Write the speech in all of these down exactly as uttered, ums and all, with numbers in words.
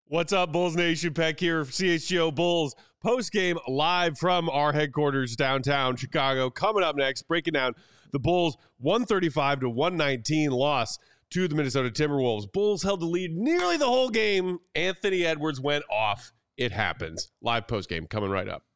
What's up, Bulls Nation? Peck here, C H G O Bulls post-game live from our headquarters downtown Chicago. Coming up next, breaking down the Bulls' one thirty-five to one nineteen loss to the Minnesota Timberwolves. Bulls held the lead nearly the whole game. Anthony Edwards went off. It happens. Live post-game coming right up.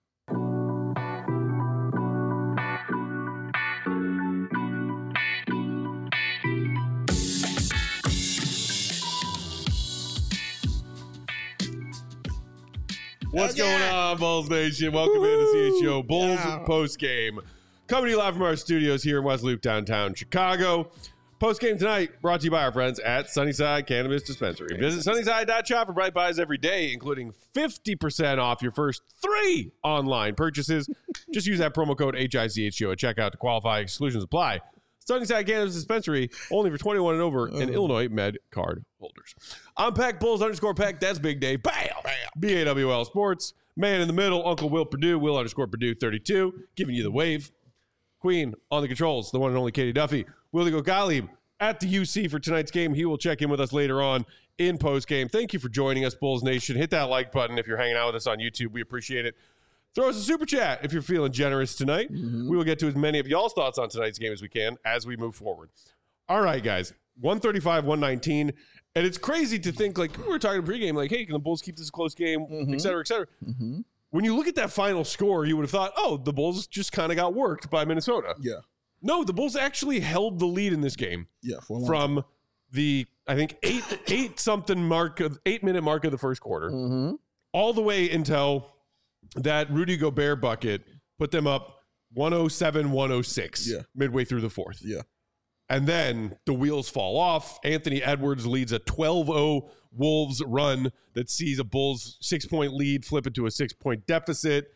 What's yeah. going on, Bulls Nation? Welcome Woo-hoo. into C H G O Bulls yeah. post-game. Coming to you live from our studios here in West Loop, downtown Chicago. Post-game tonight brought to you by our friends at Sunnyside Cannabis Dispensary. Visit sunnyside dot shop for bright buys every day, including fifty percent off your first three online purchases. Just use that promo code H I C H G O at checkout to qualify. Exclusions apply. Sunnyside Cannabis Dispensary, only for twenty-one and over, and Illinois Med card holders. I'm Peck, Bulls underscore Peck. That's Big Dave. Bam! Bam! B A W L Sports. Man in the middle, Uncle Will Purdue. Will underscore Purdue thirty-two. Giving you the wave. Queen on the controls, the one and only Katie Duffy. Willie Gogali at the U C for tonight's game. He will check in with us later on in post-game. Thank you for joining us, Bulls Nation. Hit that like button if you're hanging out with us on YouTube. We appreciate it. Throw us a super chat if you're feeling generous tonight. Mm-hmm. We will get to as many of y'all's thoughts on tonight's game as we can as we move forward. All right, guys. one thirty-five, one nineteen. And it's crazy to think, like, we were talking pregame, like, hey, can the Bulls keep this a close game, mm-hmm. et cetera, et cetera. Mm-hmm. When you look at that final score, you would have thought, oh, the Bulls just kind of got worked by Minnesota. Yeah. No, the Bulls actually held the lead in this game. Yeah, for a long from time. the, I think, eight, eight something mark, of eight minute mark of the first quarter, mm-hmm. all the way until that Rudy Gobert bucket put them up one oh seven, one oh six yeah. midway through the fourth. Yeah. And then the wheels fall off. Anthony Edwards leads a twelve oh Wolves run that sees a Bulls six-point lead flip into a six-point deficit.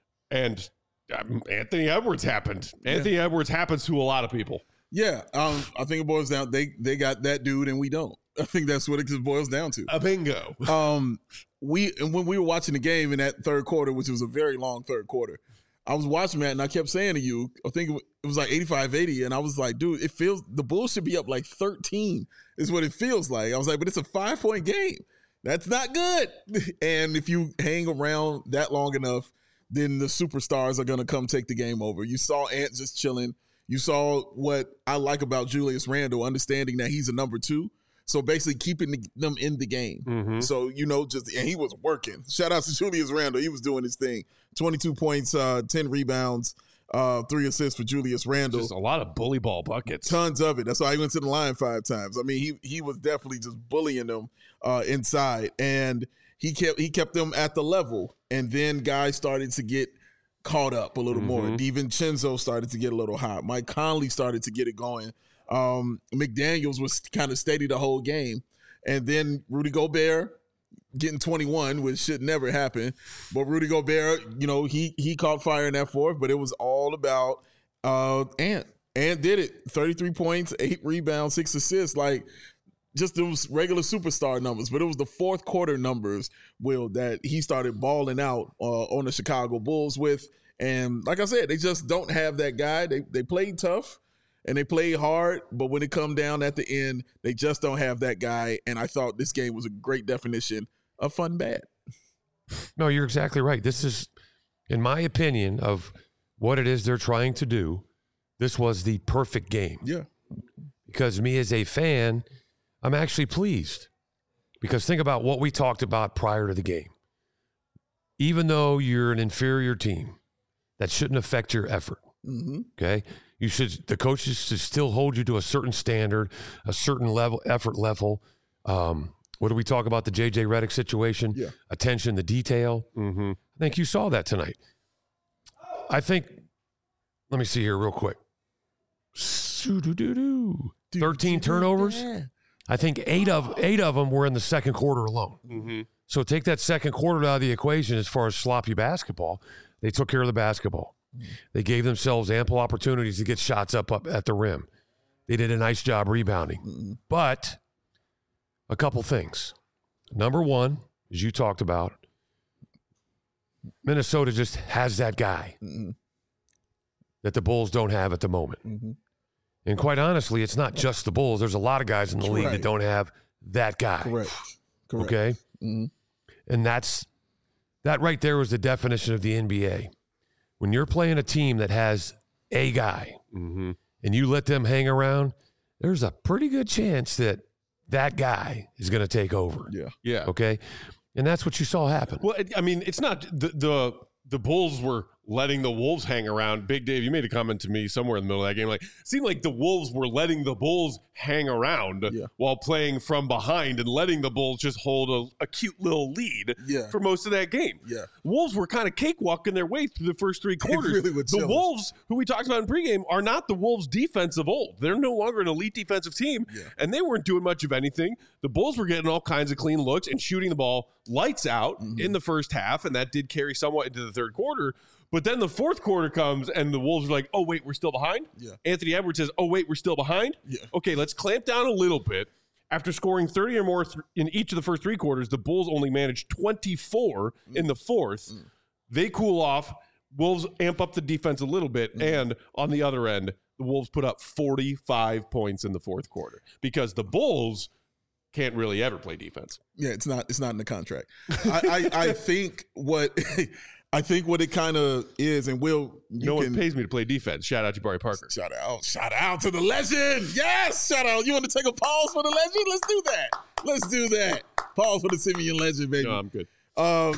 And um, Anthony Edwards happened. Anthony yeah. Edwards happens to a lot of people. Yeah. Um, I think it boils down, they they got that dude and we don't. I think that's what it boils down to. A bingo. Um, we and when we were watching the game in that third quarter, which was a very long third quarter, I was watching that and I kept saying to you, I think it was like eighty-five eighty, and I was like, dude, it feels the Bulls should be up like thirteen is what it feels like. I was like, but it's a five-point game. That's not good. And if you hang around that long enough, then the superstars are going to come take the game over. You saw Ant just chilling. You saw what I like about Julius Randle, understanding that he's a number two. So basically keeping the, them in the game. Mm-hmm. So, you know, just and he was working. Shout out to Julius Randle. He was doing his thing. twenty-two points, uh, ten rebounds, uh, three assists for Julius Randle. Just a lot of bully ball buckets. Tons of it. That's why he went to the line five times. I mean, he he was definitely just bullying them uh, inside. And he kept he kept them at the level. And then guys started to get caught up a little mm-hmm. more. DiVincenzo started to get a little hot. Mike Conley started to get it going. Um, McDaniels was kind of steady the whole game. And then Rudy Gobert getting twenty-one, which should never happen. But Rudy Gobert, you know, he he caught fire in that fourth, but it was all about uh, Ant. Ant did it. thirty-three points, eight rebounds, six assists. Like, just those regular superstar numbers. But it was the fourth quarter numbers, Will, that he started balling out uh, on the Chicago Bulls with. And like I said, they just don't have that guy. They they played tough. And they played hard, but when it come down at the end, they just don't have that guy. And I thought this game was a great definition of fun bad. No, you're exactly right. This is, in my opinion, of what it is they're trying to do, this was the perfect game. Yeah. Because me as a fan, I'm actually pleased. Because think about what we talked about prior to the game. Even though you're an inferior team, that shouldn't affect your effort. Mm-hmm. Okay? You should, the coaches should still hold you to a certain standard, a certain level, effort level. Um, what do we talk about the J J Redick situation? Yeah. Attention to detail. Mm-hmm. I think you saw that tonight. I think, let me see here real quick. thirteen turnovers. I think eight of eight of them were in the second quarter alone. Mm-hmm. So take that second quarter out of the equation as far as sloppy basketball. They took care of the basketball. They gave themselves ample opportunities to get shots up, up at the rim. They did a nice job rebounding. Mm-hmm. But a couple things. Number one, as you talked about, Minnesota just has that guy mm-hmm. that the Bulls don't have at the moment. Mm-hmm. And quite honestly, it's not just the Bulls. There's a lot of guys in the Correct. league that don't have that guy. Correct. Correct. Okay? Mm-hmm. And that's that right there was the definition of the N B A. When you're playing a team that has a guy Mm-hmm. and you let them hang around, there's a pretty good chance that that guy is going to take over. Yeah. Yeah. Okay. And that's what you saw happen. Well, it- I mean, it's not the the the Bulls were letting the Wolves hang around. Big Dave, you made a comment to me somewhere in the middle of that game. Like, it seemed like the Wolves were letting the Bulls hang around Yeah. while playing from behind and letting the Bulls just hold a, a cute little lead Yeah. for most of that game. Yeah. Wolves were kind of cakewalking their way through the first three quarters. really were the chilling. Wolves, who we talked about in pregame, are not the Wolves' defense of old. They're no longer an elite defensive team, Yeah. and they weren't doing much of anything. The Bulls were getting all kinds of clean looks and shooting the ball lights out Mm-hmm. in the first half, and that did carry somewhat into the third quarter. But then the fourth quarter comes, and the Wolves are like, oh, wait, we're still behind? Yeah. Anthony Edwards says, oh, wait, we're still behind? Yeah. Okay, let's clamp down a little bit. After scoring thirty or more th- in each of the first three quarters, the Bulls only managed twenty-four Mm. in the fourth. They cool off. Wolves amp up the defense a little bit. Mm. And on the other end, the Wolves put up forty-five points in the fourth quarter because the Bulls can't really ever play defense. Yeah, it's not. It's not in the contract. I, I, I think what I think what it kind of is, and Will, you no can one pays me to play defense. Shout out to Jabari Parker. shout out, shout out to the legend. Yes, shout out. You want to take a pause for the legend? Let's do that. Let's do that. Pause for the Simeon legend, baby. No, I'm good. Um,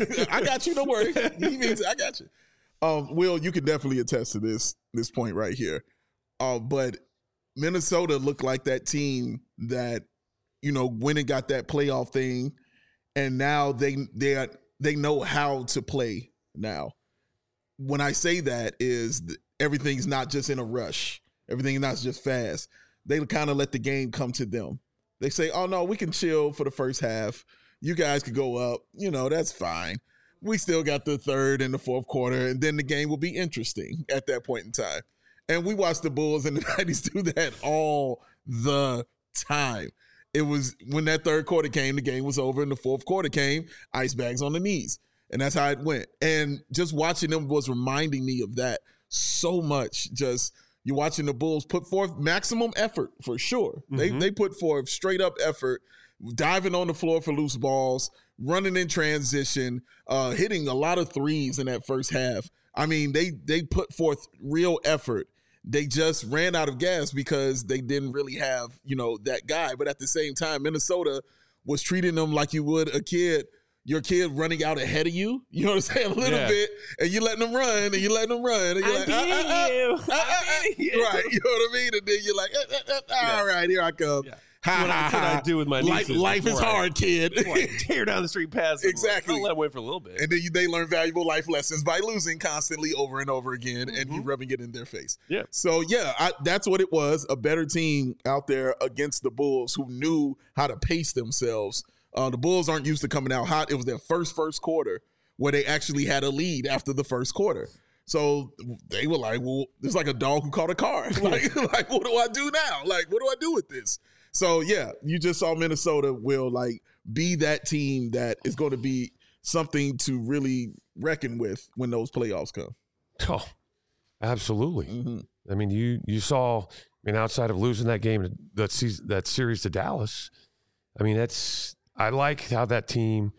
I got you. Don't worry. He means I got you. Um, Will, you can definitely attest to this this point right here. Uh, but Minnesota looked like that team that, you know, went and got that playoff thing, and now they they are, they know how to play now. When I say that is th- everything's not just in a rush. Everything's not just fast. They kind of let the game come to them. They say, oh, no, we can chill for the first half. You guys could go up. You know, that's fine. We still got the third and the fourth quarter, and then the game will be interesting at that point in time. And we watched the Bulls in the nineties do that all the time. It was when that third quarter came, the game was over, and the fourth quarter came, ice bags on the knees. And that's how it went. And just watching them was reminding me of that so much. Just you're watching the Bulls put forth maximum effort for sure. Mm-hmm. They they put forth straight up effort, diving on the floor for loose balls, running in transition, uh, hitting a lot of threes in that first half. I mean, they they put forth real effort. They just ran out of gas because they didn't really have, you know, that guy. But at the same time, Minnesota was treating them like you would a kid, your kid running out ahead of you. You know what I'm saying? A little Yeah. bit. And you letting them run, and you letting them run. And you're I'm like, ah, beating ah, ah, you. ah, ah, ah. I'm beating you. Right. You know what I mean? And then you're like, ah, ah, ah, all right, here I come. Yeah. Ha, What I- ha, that's what ha. I do with my Life, nieces life is before I- hard, kid. Before I tear down the street past them. Exactly. I'll let them wait for a little bit. And then you, they learn valuable life lessons by losing constantly over and over again, and you Mhm. rubbing it in their face. Yeah. So yeah, I, that's what it was. A better team out there against the Bulls who knew how to pace themselves. Uh, the Bulls aren't used to coming out hot. It was their first first quarter where they actually had a lead after the first quarter. So they were like, well, it's like a dog who caught a car. like, like, what do I do now? Like, what do I do with this? So yeah, you just saw Minnesota will like be that team that is going to be something to really reckon with when those playoffs come. Oh, absolutely. Mm-hmm. I mean, you you saw. I mean, outside of losing that game, that season, that series to Dallas. I mean, that's. I like how that team.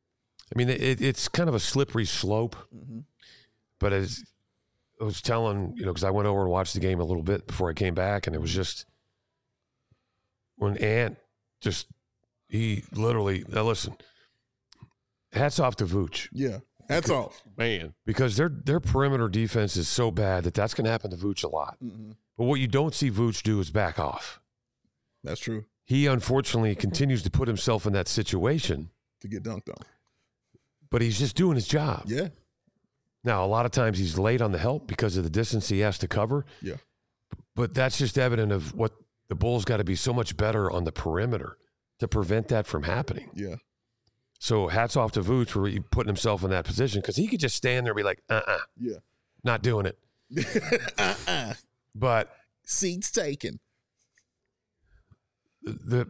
I mean, it, it's kind of a slippery slope, Mm-hmm. but as I was telling, you know, because I went over and watched the game a little bit before I came back, and it was just when Ant just he literally. Now listen, hats off to Vooch. Yeah, that's off. Man. Because their their perimeter defense is so bad that that's going to happen to Vooch a lot. Mm-hmm. But what you don't see Vooch do is back off. That's true. He unfortunately continues to put himself in that situation, To get dunked on. but he's just doing his job. Yeah. Now, a lot of times he's late on the help because of the distance he has to cover. Yeah. But that's just evident of what the Bulls got to be so much better on the perimeter to prevent that from happening. Yeah. So hats off to Vooch for putting himself in that position because he could just stand there and be like, uh-uh, Yeah. not doing it. uh-uh. But Seats taken. the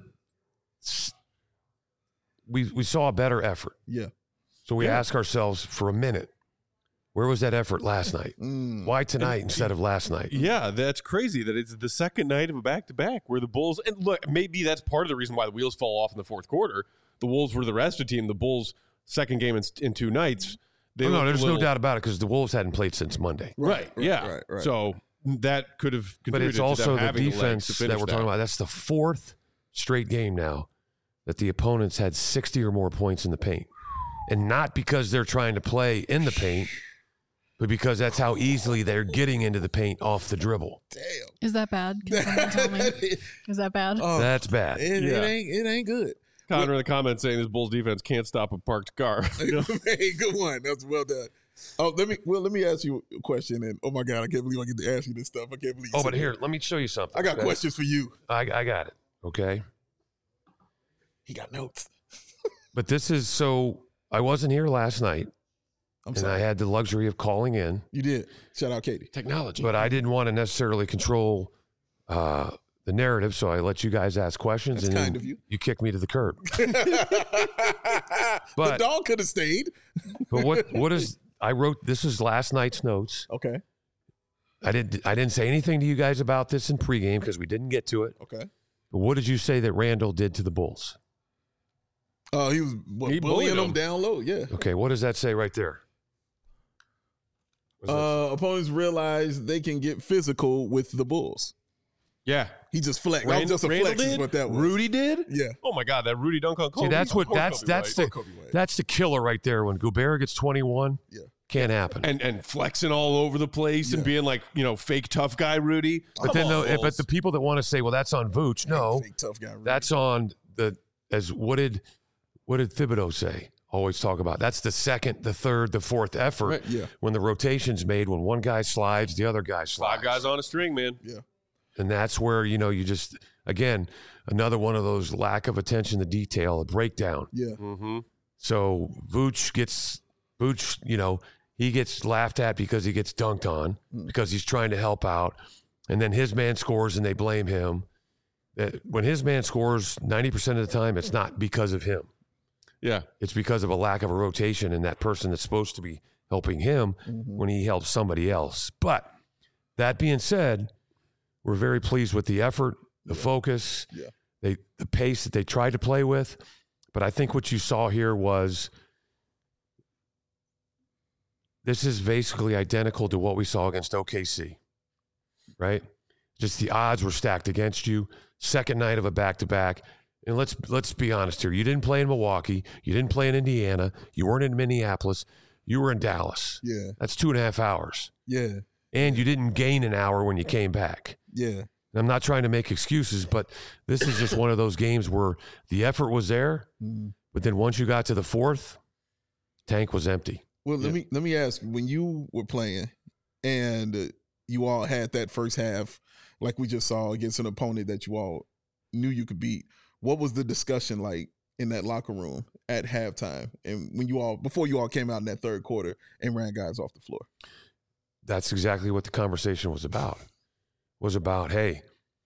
we we saw a better effort. Yeah. So we Yeah. ask ourselves for a minute, where was that effort last night? Mm. Why tonight instead of last night? Yeah, that's crazy that it's the second night of a back-to-back where the Bulls – and look, maybe that's part of the reason why the wheels fall off in the fourth quarter, the Wolves were the rest of the team. The Bulls' second game in, in two nights. They oh, no, there's little, no doubt about it because the Wolves hadn't played since Monday. Right. right yeah. Right, right. So that could have contributed But it's to also them the defense the that we're talking about. That's the fourth straight game now that the opponents had sixty or more points in the paint. And not because they're trying to play in the paint, but because that's how easily they're getting into the paint off the dribble. Damn. Is that bad? Can someone tell me? Is that bad? Oh, That's bad. It, Yeah. it ain't. It ain't good. Connor in the comments saying this Bulls defense can't stop a parked car. Hey, good one. That's well done. Oh, let me. Well, let me ask you a question. And oh my God, I can't believe I get to ask you this stuff. I can't believe. You Oh, said but that. here, let me show you something. I got okay? questions for you. I, I got it. Okay. He got notes. But this is so I wasn't here last night, I'm and sorry. I had the luxury of calling in, You did. Shout out, Katie. Technology. but I didn't want to necessarily control uh, the narrative, so I let you guys ask questions, That's and kind then of you. you kicked me to the curb. the But- dog could have stayed. But what what is I wrote this is last night's notes. Okay. I didn't I didn't say anything to you guys about this in pregame because we didn't get to it. Okay. But what did you say that Randall did to the Bulls? Uh, he was what, He bullying bullied them him. down low. Yeah. Okay, what does that say right there? What does that Uh, opponents realize they can get physical with the Bulls. yeah. He just flexed. That was Randall, just a Randall flex. Is did? what that was. Rudy did? Yeah. Oh my God, that Rudy dunk on Kobe. See, that's what Poor that's Kobe that's White. the Kobe White. that's the killer right there. When Gobert gets twenty-one, Yeah. can't happen. and and flexing all over the place and Yeah. being like, you know, fake tough guy Rudy. but Come then, on, the, but Bulls. the people that want to say, well, that's on Vooch. No, Fake tough guy. Rudy. that's on the as what did what did Thibodeau say? Always talk about that's the second, the third, the fourth effort Right. Yeah. when the rotation's made. When one guy slides, the other guy slides. five guys on a string, man. Yeah. And that's where, you know, you just, again, another one of those lack of attention to detail, a breakdown. Yeah. Mm-hmm. So Vooch gets, Vooch, you know, he gets laughed at because he gets dunked on because he's trying to help out. And then his man scores and they blame him. That when his man scores ninety percent of the time, it's not because of him. Yeah. It's because of a lack of a rotation and that person that's supposed to be helping him Mm-hmm. when he helps somebody else. But that being said, we're very pleased with the effort, the focus, Yeah. they, the pace that they tried to play with. But I think what you saw here was this is basically identical to what we saw against O K C, right? Just the odds were stacked against you. Second night of a back-to-back. And let's let's be honest here. You didn't play in Milwaukee. You didn't play in Indiana. You weren't in Minneapolis. You were in Dallas. Yeah. That's two and a half hours. Yeah. And you didn't gain an hour when you came back. Yeah. And I'm not trying to make excuses, but this is just one of those games where the effort was there, Mhm. but then once you got to the fourth, tank was empty. Well, let Yeah. me let me ask: when you were playing, and uh, you all had that first half, like we just saw against an opponent that you all knew you could beat, what was the discussion like in that locker room at halftime, and when you all before you all came out in that third quarter and ran guys off the floor? That's exactly what the conversation was about. Was about, hey,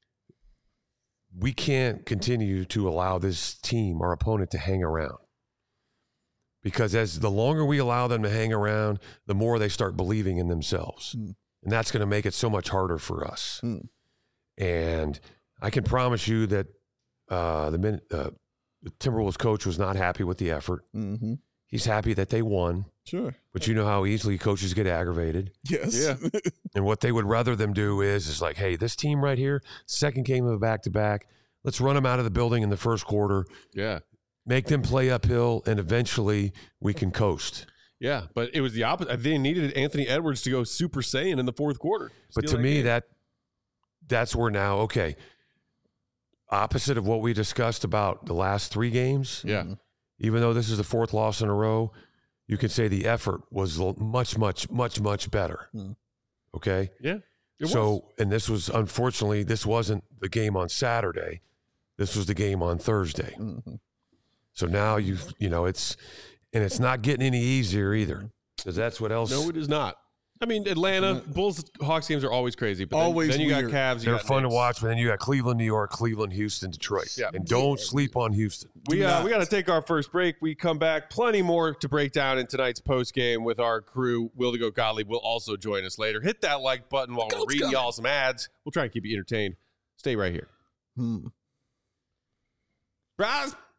we can't continue to allow this team, our opponent, to hang around. Because as the longer we allow them to hang around, the more they start believing in themselves. Mm. And that's going to make it so much harder for us. Mm. And I can promise you that uh, the, min- uh, the Timberwolves coach was not happy with the effort. Mm-hmm. He's happy that they won, Sure. but you know how easily coaches get aggravated. Yes. Yeah. And what they would rather them do is, is like, hey, this team right here, second game of a back-to-back, let's run them out of the building in the first quarter, Yeah. make them play uphill, and eventually we can coast. Yeah. But it was the opposite. They needed Anthony Edwards to go Super Saiyan in the fourth quarter. But Steal to me, game. that that's where now, okay, opposite of what we discussed about the last three games, Yeah. even though this is the fourth loss in a row, you could say the effort was l- much, much, much, much better. Mm. Okay? Yeah. It so, was. and this was, unfortunately, this wasn't the game on Saturday. This was the game on Thursday. Mhm. So now you've, you know, it's, and it's not getting any easier either. Because that's what else. No, it is not. I mean, Atlanta, Bulls, Hawks games are always crazy. But then, Always then you weird. got Cavs. You They're got fun to Knicks. watch, but then you got Cleveland, New York, Cleveland, Houston, Detroit. Yeah. And don't sleep on Houston. We Do uh, not. we got to take our first break. We come back. Plenty more to break down in tonight's post game with our crew. Will to go Gottlieb will also join us later. Hit that like button while we're Goat's reading coming. y'all some ads. We'll try and keep you entertained. Stay right here. Hmm. Bros,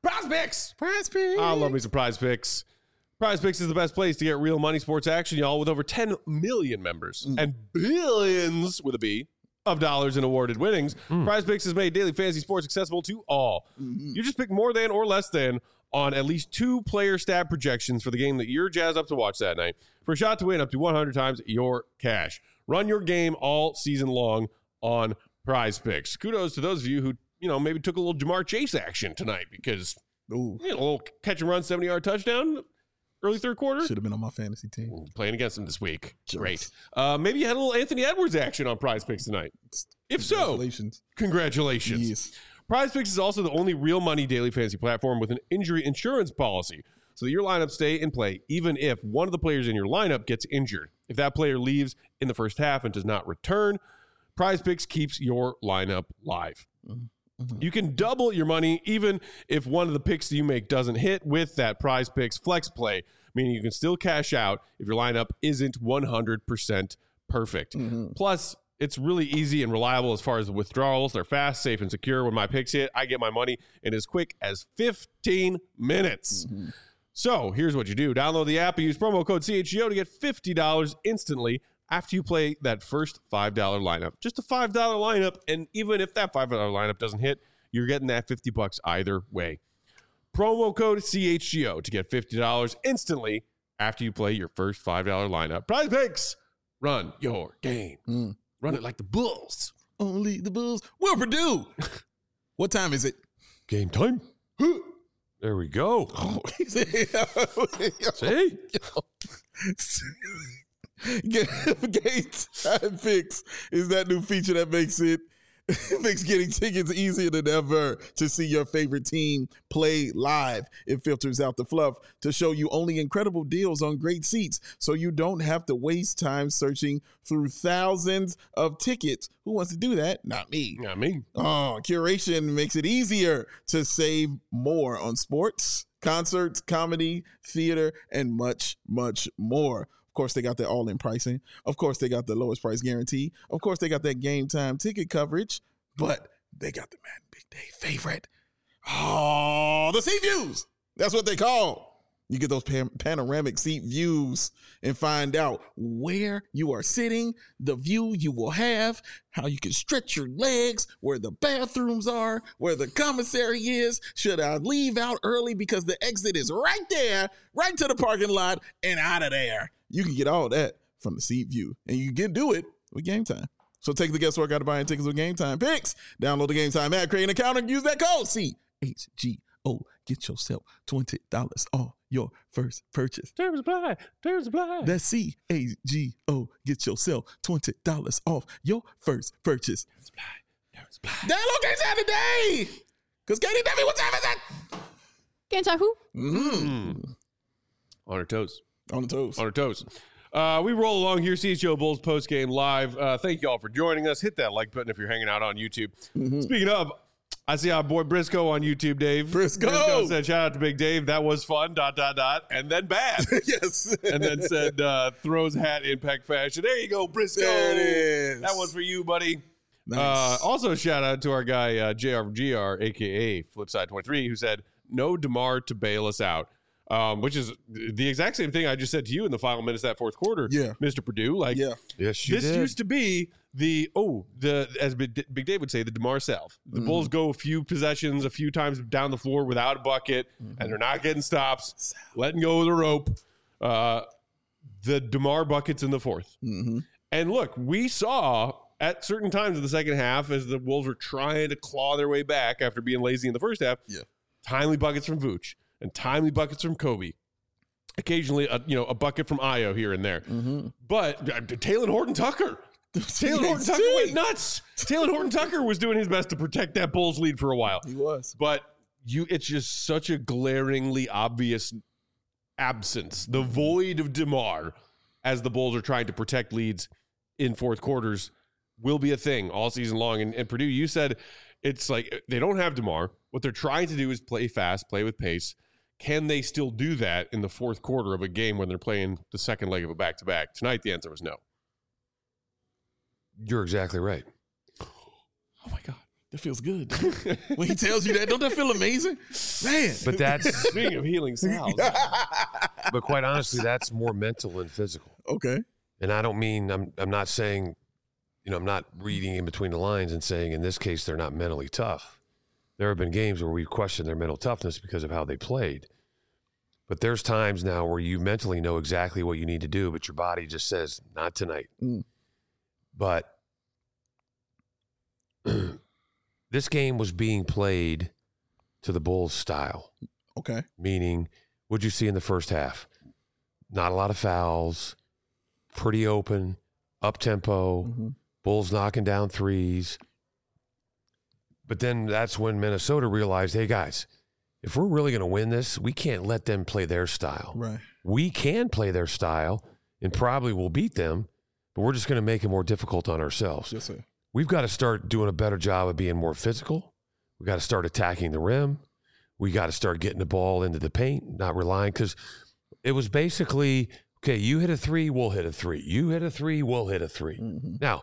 Prize Picks. Prize Picks. I love me some Prize Picks. Prize Picks is the best place to get real money sports action, y'all, with over ten million members mm. and billions, with a B, of dollars in awarded winnings. Mm. Prize Picks has made daily fantasy sports accessible to all. Mm-hmm. You just pick more than or less than on at least two player stat projections for the game that you're jazzed up to watch that night for a shot to win up to one hundred times your cash. Run your game all season long on Prize Picks. Kudos to those of you who, you know, maybe took a little Jamar Chase action tonight because Ooh. You know, a little catch and run seventy-yard touchdown early third quarter. Should have been on my fantasy team. Ooh, playing against him this week. Just. Great. Uh, maybe you had a little Anthony Edwards action on Prize Picks tonight. If congratulations. so, congratulations. Yes. Prize Picks is also the only real money daily fantasy platform with an injury insurance policy so that your lineup stay in play even if one of the players in your lineup gets injured. If that player leaves in the first half and does not return, Prize Picks keeps your lineup live. Mm-hmm. You can double your money even if one of the picks that you make doesn't hit with that Prize Picks flex play, meaning you can still cash out if your lineup isn't one hundred percent perfect. Mm-hmm. Plus, it's really easy and reliable as far as the withdrawals. They're fast, safe, and secure. When my picks hit, I get my money in as quick as fifteen minutes. Mm-hmm. So here's what you do. Download the app and use promo code C H G O to get fifty dollars instantly after you play that first five dollar lineup. Just a five dollar lineup, and even if that five dollar lineup doesn't hit, you're getting that fifty bucks either way. Promo code C H G O to get fifty dollars instantly after you play your first five dollar lineup. Prize Picks, run your game. Mm. Run it like the Bulls. Only the Bulls. Will Purdue. What time is it? Game time. There we go. Oh, See? Game Time Picks is that new feature that makes it makes getting tickets easier than ever to see your favorite team play live. It filters out the fluff to show you only incredible deals on great seats, so you don't have to waste time searching through thousands of tickets. Who wants to do that? Not me. Not me. Oh, curation makes it easier to save more on sports, concerts, comedy, theater, and much, much more. Of course, they got that all-in pricing. Of course, they got the lowest price guarantee. Of course, they got that game time ticket coverage. But they got the Madden Big Day favorite. Oh, the seat views. That's what they call. You get those pan- panoramic seat views and find out where you are sitting, the view you will have, how you can stretch your legs, where the bathrooms are, where the commissary is. Should I leave out early because the exit is right there, right to the parking lot and out of there. You can get all that from the seat view, and you can do it with Game Time. So take the guesswork out of buying tickets with Game Time Picks. Download the Game Time app, create an account, and use that code C H G O. Get yourself twenty dollars off your first purchase. Terms apply. Terms apply. That's C H G O. Get yourself twenty dollars off your first purchase. Terms apply. Terms apply. Download Game Time today. Because Katie, tell me what time is it? Game Time who? Mm-hmm. On her toes. On the toes. On her toes. Uh, we roll along here, C H O Bulls post game live. Uh, thank you all for joining us. Hit that like button if you're hanging out on YouTube. Mm-hmm. Speaking of, I see our boy Briscoe on YouTube, Dave. Briscoe. Briscoe said, shout out to Big Dave. That was fun, dot, dot, dot. And then bad. Yes. And then said, uh, throws hat impact fashion. There you go, Briscoe. There it is. That was for you, buddy. Nice. Uh, also, shout out to our guy, uh, J R G R, a k a. Flipside twenty-three, who said, no DeMar to bail us out. Um, which is the exact same thing I just said to you in the final minutes of that fourth quarter, yeah. Mister Purdue. Like, yeah. yes, you this did. used to be the oh the as Big Big Dave would say, the DeMar Salve. The mm. Bulls go a few possessions, a few times down the floor without a bucket, mm-hmm. and they're not getting stops, letting go of the rope. Uh, the DeMar buckets in the fourth, mm-hmm. and look, we saw at certain times in the second half as the Wolves were trying to claw their way back after being lazy in the first half. Yeah, timely buckets from Vooch. And timely buckets from Kobe. Occasionally, a, you know, a bucket from Ayo here and there. Mm-hmm. But uh, Taylor Horton-Tucker. Taylor Horton-Tucker went nuts. Taylor Horton-Tucker was doing his best to protect that Bulls lead for a while. He was. But you, it's just such a glaringly obvious absence. The void of DeMar as the Bulls are trying to protect leads in fourth quarters will be a thing all season long. And, and Purdue, you said it's like they don't have DeMar. What they're trying to do is play fast, play with pace. Can they still do that in the fourth quarter of a game when they're playing the second leg of a back-to-back? Tonight, the answer was no. You're exactly right. Oh, my God. That feels good. When he tells you that, don't that feel amazing? Man. But that's Speaking of healing salves. but quite honestly, that's more mental than physical. Okay. And I don't mean I'm I'm not saying, you know, I'm not reading in between the lines and saying in this case they're not mentally tough. There have been games where we've questioned their mental toughness because of how they played. But there's times now where you mentally know exactly what you need to do, but your body just says, not tonight. Mm. But this game was being played to the Bulls' style. Okay. Meaning, what'd you see in the first half? Not a lot of fouls, pretty open, up-tempo, Mm-hmm. Bulls knocking down threes. But then that's when Minnesota realized, hey, guys, if we're really going to win this, we can't let them play their style. Right. We can play their style and probably will beat them, but we're just going to make it more difficult on ourselves. Yes, sir. We've got to start doing a better job of being more physical. We got to start attacking the rim. We got to start getting the ball into the paint, not relying, because it was basically, okay, you hit a three, we'll hit a three. You hit a three, we'll hit a three. Mm-hmm. Now,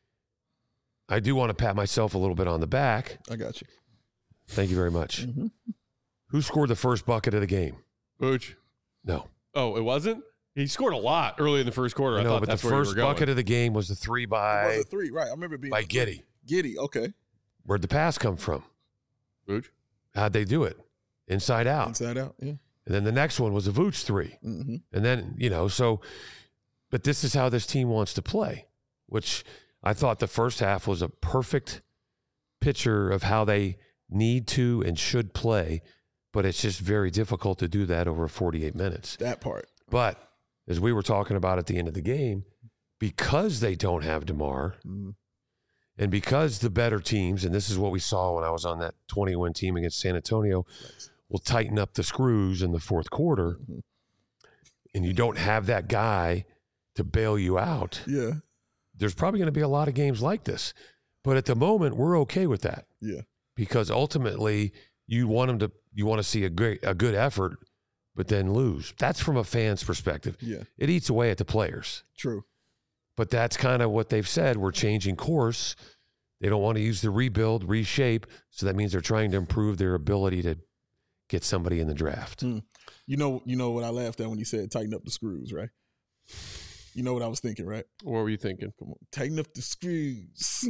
I do want to pat myself a little bit on the back. I got you. Thank you very much. Mm-hmm. Who scored the first bucket of the game? Booch. No. Oh, it wasn't? He scored a lot early in the first quarter. I, I know, thought but that's the where first you were going. bucket of the game was the three It by, was a three, right? I remember it being by a three. Giddey. Giddey, okay. Where'd the pass come from? Booch. How'd they do it? Inside out. Inside out, yeah. And then the next one was a Vooch three. Mm-hmm. And then, you know, so, but this is how this team wants to play, which I thought the first half was a perfect picture of how they need to and should play, but it's just very difficult to do that over forty-eight minutes. That part. But as we were talking about at the end of the game, because they don't have DeMar, Mm-hmm. and because the better teams, and this is what we saw when I was on that twenty-win team against San Antonio, Nice. will tighten up the screws in the fourth quarter, Mm-hmm. and you don't have that guy to bail you out, Yeah, there's probably going to be a lot of games like this. But at the moment, we're okay with that yeah. because ultimately you want them to, you want to see a great, a good effort, but then lose. That's from a fan's perspective. Yeah. It eats away at the players. True. But that's kind of what they've said. We're changing course. They don't want to use the rebuild, reshape. So that means they're trying to improve their ability to get somebody in the draft. Hmm. You know, you know what I laughed at when you said tighten up the screws, right? You know what I was thinking, right? What were you thinking? Come on, tighten up the screws.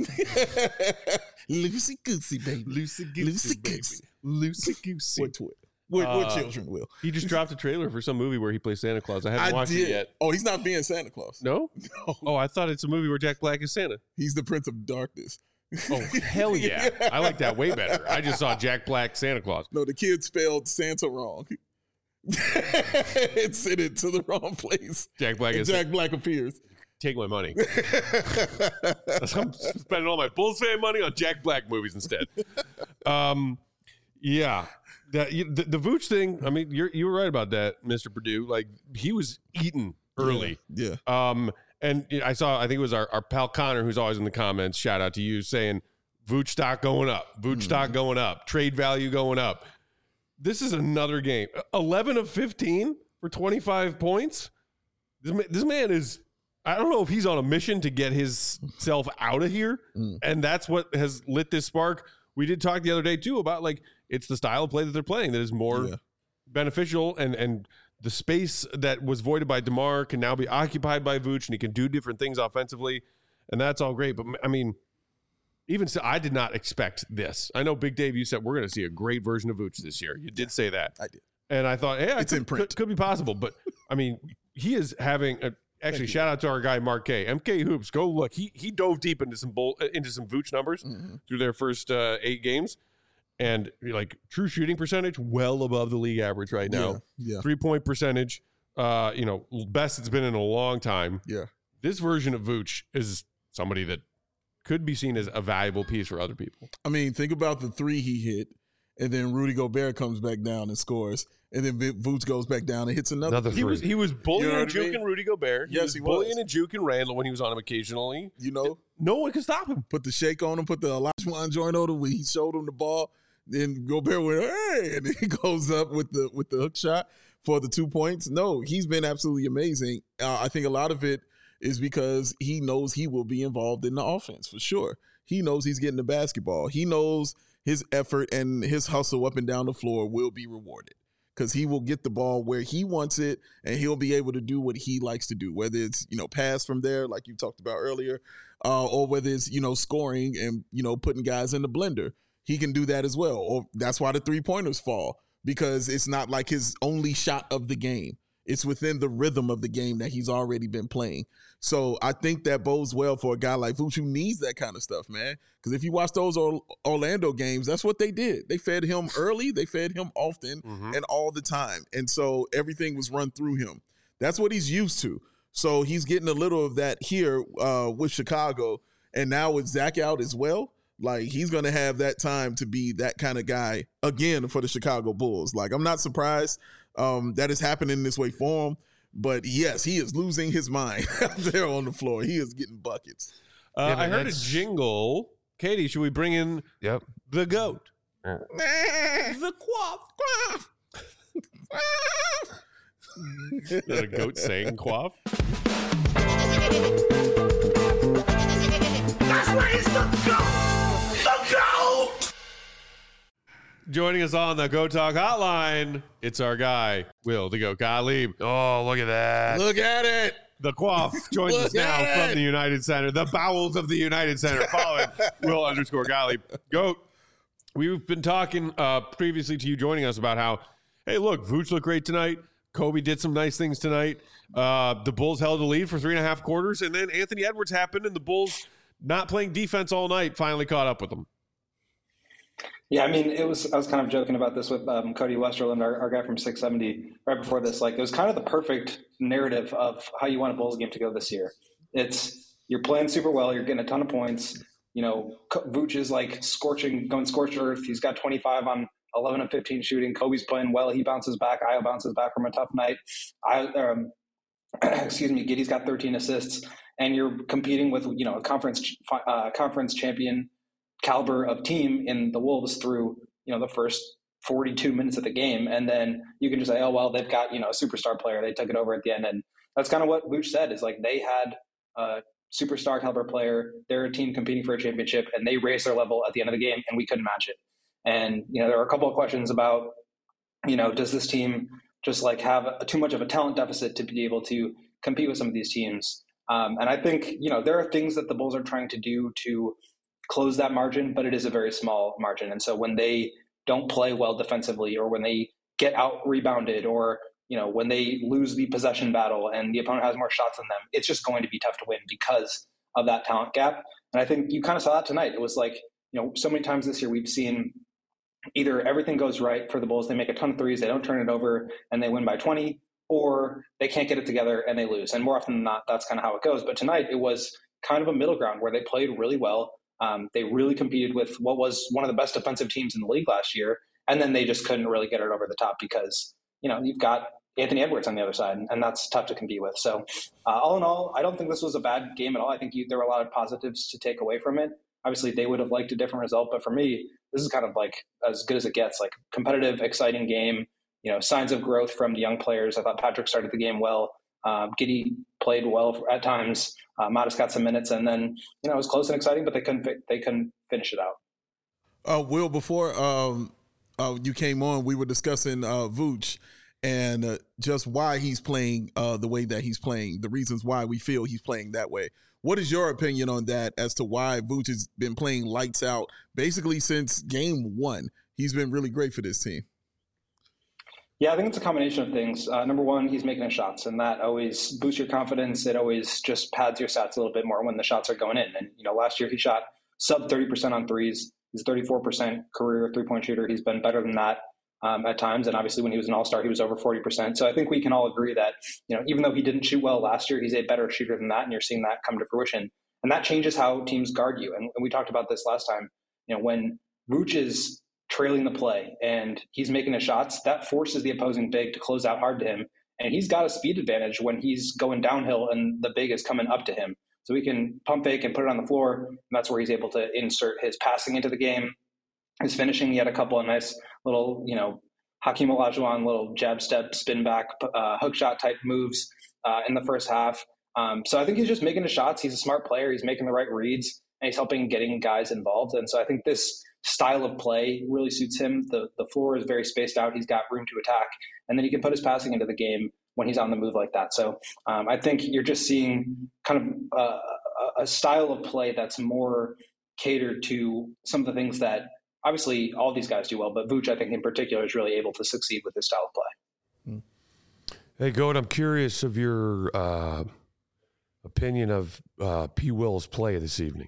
Loosey goosey, baby. Loosey Loosey goosey. Loosey goosey. What, what, what, what Uh, children will? He just dropped a trailer for some movie where he plays Santa Claus. I haven't I watched did. it yet. Oh, he's not being Santa Claus. No? No. Oh, I thought it's a movie where Jack Black is Santa. He's the Prince of Darkness. Oh, hell yeah. I like that way better. I just saw Jack Black Santa Claus. No, the kid spelled Santa wrong. It sent it to the wrong place. Jack Black And is Jack Black appears. Take my money. I'm spending all my Bulls fan money on Jack Black movies instead. Um, yeah, that you, the, the Vooch thing. I mean, you're you were right about that, Mister Purdue. Like he was eaten early. Yeah. Um, and I saw. I think it was our, our pal Connor, who's always in the comments. Shout out to you, saying Vooch stock going up, Vooch Mm. stock going up, trade value going up. This is another game. eleven of fifteen for twenty-five points. This man, this man is. I don't know if he's on a mission to get himself out of here, Mm. and that's what has lit this spark. We did talk the other day too about like it's the style of play that they're playing that is more Yeah. beneficial, and and the space that was voided by DeMar can now be occupied by Vooch, and he can do different things offensively, and that's all great. But I mean, even so, I did not expect this. I know Big Dave, you said we're going to see a great version of Vooch this year. You did say that, I did. and I thought, yeah, It's could, in print. Could, could be possible, but I mean, he is having a. Actually, you. shout out to our guy Mark K. M K Hoops. Go look. He he dove deep into some bull, into some Vooch numbers Mhm. through their first uh, eight games, and like true shooting percentage well above the league average right now. Yeah. Three point percentage, uh, you know, best it's been in a long time. Yeah. This version of Vooch is somebody that could be seen as a valuable piece for other people. I mean, think about the three he hit, and then Rudy Gobert comes back down and scores, and then Vooch goes back down and hits another. Another He three. was he was bullying You know and what I juking mean? Rudy Gobert. He Yes, was he bullying was. and juking Randall when he was on him occasionally. You know, No one could stop him. put the shake on him, put the Olajuwon joint on him when he showed him the ball. Then Gobert went, hey, and then he goes up with the with the hook shot for the two points. No, he's been absolutely amazing. Uh, I think a lot of it is because he knows he will be involved in the offense for sure. he knows he's getting the basketball. He knows his effort and his hustle up and down the floor will be rewarded because he will get the ball where he wants it, and he'll be able to do what he likes to do, whether it's, you know, pass from there, like you talked about earlier, uh, or whether it's, you know, scoring and, you know, putting guys in the blender. He can do that as well. Or that's why the three-pointers fall, because it's not like his only shot of the game. It's within the rhythm of the game that he's already been playing. So I think that bodes well for a guy like Vooch who needs that kind of stuff, man. Because if you watch those Orlando games, that's what they did. They fed him early, they fed him often, mm-hmm. and all the time. And so everything was run through him. That's what he's used to. So he's getting a little of that here uh, with Chicago. And now with Zach out as well, like he's going to have that time to be that kind of guy again for the Chicago Bulls. Like I'm not surprised um, that is happening this way for him. But yes, he is losing his mind out there on the floor. He is getting buckets. Uh, yeah, I heard that's... a jingle. Katie, should we bring in yep. the GOAT? The quaff. Is that a goat saying quaff? That's why he's the GOAT! The GOAT! Joining us on the Go Talk Hotline, it's our guy, Will the Goat Gottlieb. Oh, look at that. Look at it. The Quaff joins us now it. from the United Center, the bowels of the United Center. Follow it, Will underscore Gottlieb. Goat, we've been talking uh, previously to you joining us about how, hey, look, Vooch looked great tonight. Kobe did some nice things tonight. Uh, the Bulls held a lead for three and a half quarters, and then Anthony Edwards happened, and the Bulls, not playing defense all night, finally caught up with them. Yeah, I mean, it was. I was kind of joking about this with um, Cody Westerland, our, our guy from six seventy, right before this. Like, it was kind of the perfect narrative of how you want a Bulls game to go this year. It's you're playing super well, you're getting a ton of points. You know, Vooch is like scorching, going scorched earth. He's got twenty-five on eleven and fifteen shooting. Kobe's playing well. He bounces back. Io bounces back from a tough night. I, um, excuse me, Giddey's got thirteen assists, and you're competing with you know a conference uh, conference champion caliber of team in the Wolves through, you know, the first forty-two minutes of the game. And then you can just say, oh, well, they've got, you know, a superstar player. They took it over at the end. And that's kind of what Vooch said is like, they had a superstar caliber player. They're a team competing for a championship and they raised their level at the end of the game and we couldn't match it. And, you know, there are a couple of questions about, you know, does this team just like have a, too much of a talent deficit to be able to compete with some of these teams? Um, and I think, you know, there are things that the Bulls are trying to do to close that margin, but it is a very small margin. And so when they don't play well defensively, or when they get out rebounded, or, you know, when they lose the possession battle and the opponent has more shots than them, it's just going to be tough to win because of that talent gap. And I think you kind of saw that tonight. It was like, you know, so many times this year we've seen either everything goes right for the Bulls, they make a ton of threes, they don't turn it over and they win by twenty, or they can't get it together and they lose. And more often than not, that's kind of how it goes. But tonight it was kind of a middle ground where they played really well. Um, they really competed with what was one of the best defensive teams in the league last year. And then they just couldn't really get it over the top because, you know, you've got Anthony Edwards on the other side, and that's tough to compete with. So uh, all in all, I don't think this was a bad game at all. I think you, there were a lot of positives to take away from it. Obviously, they would have liked a different result. But for me, this is kind of like as good as it gets, like competitive, exciting game, you know, signs of growth from the young players. I thought Patrick started the game well. Um, Giddey played well at times. Uh, Modest got some minutes, and then you know it was close and exciting, but they couldn't they couldn't finish it out. Uh, Will, before um, uh, you came on, we were discussing uh, Vooch and uh, just why he's playing uh, the way that he's playing, the reasons why we feel he's playing that way. What is your opinion on that as to why Vooch has been playing lights out basically since game one? He's been really great for this team. Yeah, I think it's a combination of things. Uh, number one, he's making his shots, and that always boosts your confidence. It always just pads your stats a little bit more when the shots are going in. And, you know, last year he shot sub thirty percent on threes. He's thirty-four percent career three-point shooter. He's been better than that um, at times. And obviously when he was an all-star, he was over forty percent. So I think we can all agree that, you know, even though he didn't shoot well last year, he's a better shooter than that. And you're seeing that come to fruition. And that changes how teams guard you. And, and we talked about this last time. You know, when Vooch is trailing the play and he's making his shots, that forces the opposing big to close out hard to him. And he's got a speed advantage when he's going downhill and the big is coming up to him. So he can pump fake and put it on the floor. And that's where he's able to insert his passing into the game. His finishing, he had a couple of nice little, you know, Hakeem Olajuwon, little jab step, spin back, uh, hook shot type moves uh, in the first half. Um, so I think he's just making his shots. He's a smart player. He's making the right reads. and he's helping getting guys involved. And so I think this style of play really suits him. The the floor is very spaced out. He's got room to attack, and then he can put his passing into the game when he's on the move like that. So um, I think you're just seeing kind of uh, a style of play that's more catered to some of the things that obviously all these guys do well, but Vooch, I think in particular, is really able to succeed with this style of play. Hey, Goat, I'm curious of your uh, opinion of uh, P. Will's play this evening.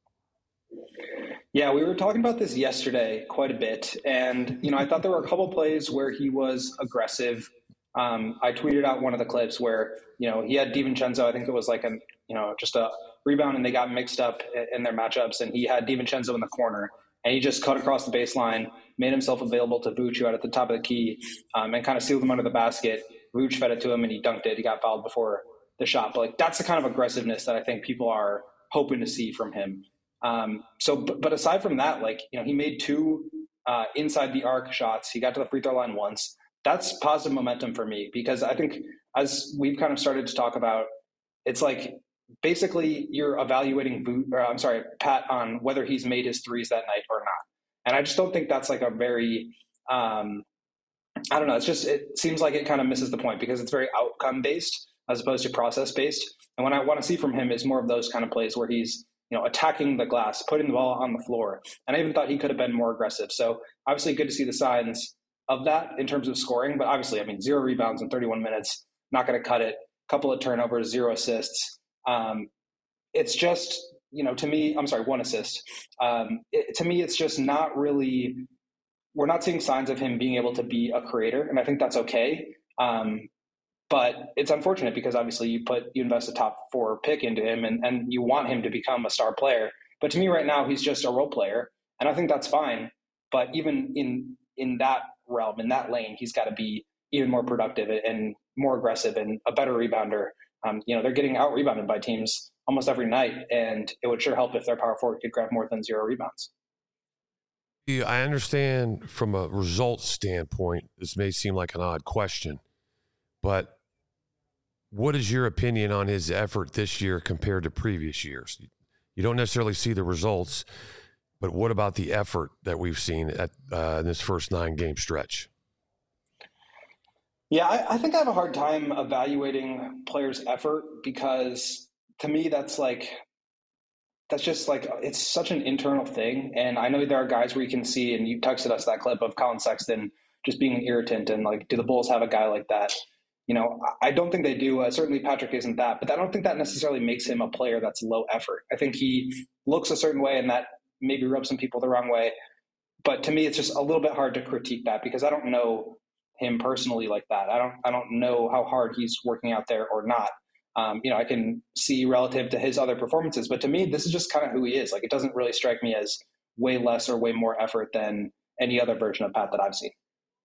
Yeah, we were talking about this yesterday quite a bit. And, you know, I thought there were a couple plays where he was aggressive. Um, I tweeted out one of the clips where, you know, he had DiVincenzo, I think it was like a, you know, just a rebound, and they got mixed up in their matchups. And he had DiVincenzo in the corner, and he just cut across the baseline, made himself available to Vooch, who had at the top of the key, um, and kind of sealed him under the basket. Vooch fed it to him, and he dunked it. He got fouled before the shot. But like, that's the kind of aggressiveness that I think people are hoping to see from him. Um, so, but, but aside from that, like, you know, he made two uh, inside the arc shots. He got to the free throw line once. That's positive momentum for me, because I think as we've kind of started to talk about, it's like basically you're evaluating Boot, or I'm sorry, Pat, on whether he's made his threes that night or not. And I just don't think that's like a very, um, I don't know. It's just, it seems like it kind of misses the point, because it's very outcome based as opposed to process based. And what I want to see from him is more of those kind of plays where he's, you know, attacking the glass, putting the ball on the floor. And I even thought he could have been more aggressive. So obviously good to see the signs of that in terms of scoring. But obviously, I mean, zero rebounds in thirty-one minutes, not going to cut it. Couple of turnovers, zero assists. Um, it's just, you know, to me, I'm sorry, one assist. Um, it, to me, it's just not really, we're not seeing signs of him being able to be a creator. And I think that's okay. Um, But it's unfortunate, because obviously you put you invest a top four pick into him, and, and you want him to become a star player. But to me right now, he's just a role player, and I think that's fine. But even in in that realm, in that lane, he's got to be even more productive and more aggressive and a better rebounder. Um, you know, they're getting out rebounded by teams almost every night, and it would sure help if their power forward could grab more than zero rebounds. Yeah, I understand from a results standpoint, this may seem like an odd question, but what is your opinion on his effort this year compared to previous years? You don't necessarily see the results, but what about the effort that we've seen at uh, in this first nine-game stretch? Yeah, I, I think I have a hard time evaluating players' effort, because to me that's like that's just like it's such an internal thing. And I know there are guys where you can see, and you texted us that clip of Colin Sexton just being an irritant, and like, do the Bulls have a guy like that? You know, I don't think they do. Uh, certainly Patrick isn't that, but I don't think that necessarily makes him a player that's low effort. I think he looks a certain way, and that maybe rubs some people the wrong way. But to me, it's just a little bit hard to critique that, because I don't know him personally like that. I don't, I don't know how hard he's working out there or not. Um, you know, I can see relative to his other performances, but to me, this is just kind of who he is. Like, it doesn't really strike me as way less or way more effort than any other version of Pat that I've seen.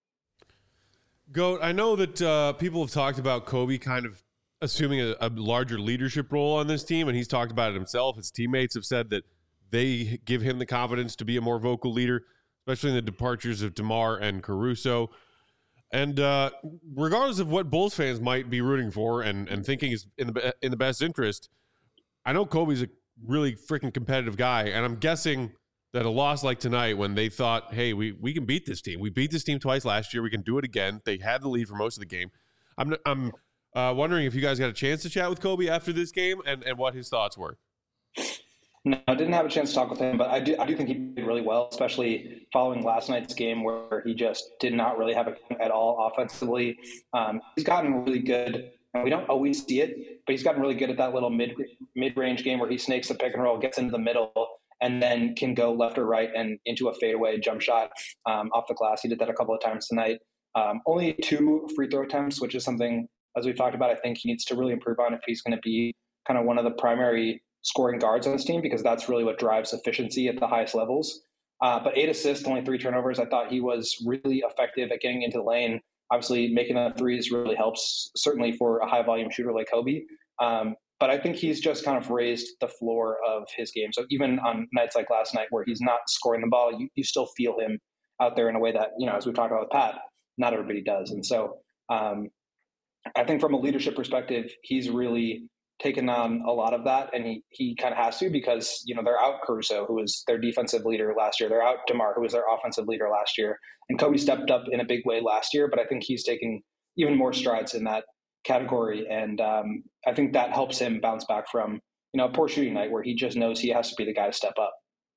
Goat, I know that uh, people have talked about Kobe kind of assuming a, a larger leadership role on this team, and he's talked about it himself. His teammates have said that they give him the confidence to be a more vocal leader, especially in the departures of DeMar and Caruso. And uh, regardless of what Bulls fans might be rooting for and, and thinking is in the in the best interest, I know Kobe's a really freaking competitive guy, and I'm guessing that a loss like tonight, when they thought, hey, we, we can beat this team. We beat this team twice last year. We can do it again. They had the lead for most of the game. I'm I'm uh, wondering if you guys got a chance to chat with Kobe after this game and, and what his thoughts were. No, I didn't have a chance to talk with him, but I do, I do think he did really well, especially following last night's game where he just did not really have it at all offensively. Um, he's gotten really good, and we don't always see it, but he's gotten really good at that little mid, mid-range game where he snakes the pick and roll, gets into the middle, and then can go left or right and into a fadeaway jump shot um, off the glass. He did that a couple of times tonight. Um, only two free throw attempts, which is something, as we've talked about, I think he needs to really improve on if he's going to be kind of one of the primary scoring guards on this team, because that's really what drives efficiency at the highest levels. Uh, but eight assists, only three turnovers. I thought he was really effective at getting into the lane. Obviously, making the threes really helps, certainly for a high volume shooter like Kobe. Um, but I think he's just kind of raised the floor of his game. So even on nights like last night where he's not scoring the ball, you, you still feel him out there in a way that, you know, as we talked about with Pat, not everybody does. And so um, I think from a leadership perspective, he's really taken on a lot of that, and he he kind of has to because, you know, they're out Caruso, who was their defensive leader last year. They're out DeMar, who was their offensive leader last year. And Kobe stepped up in a big way last year, but I think he's taken even more strides in that category. And um, I think that helps him bounce back from, you know, a poor shooting night where he just knows he has to be the guy to step up.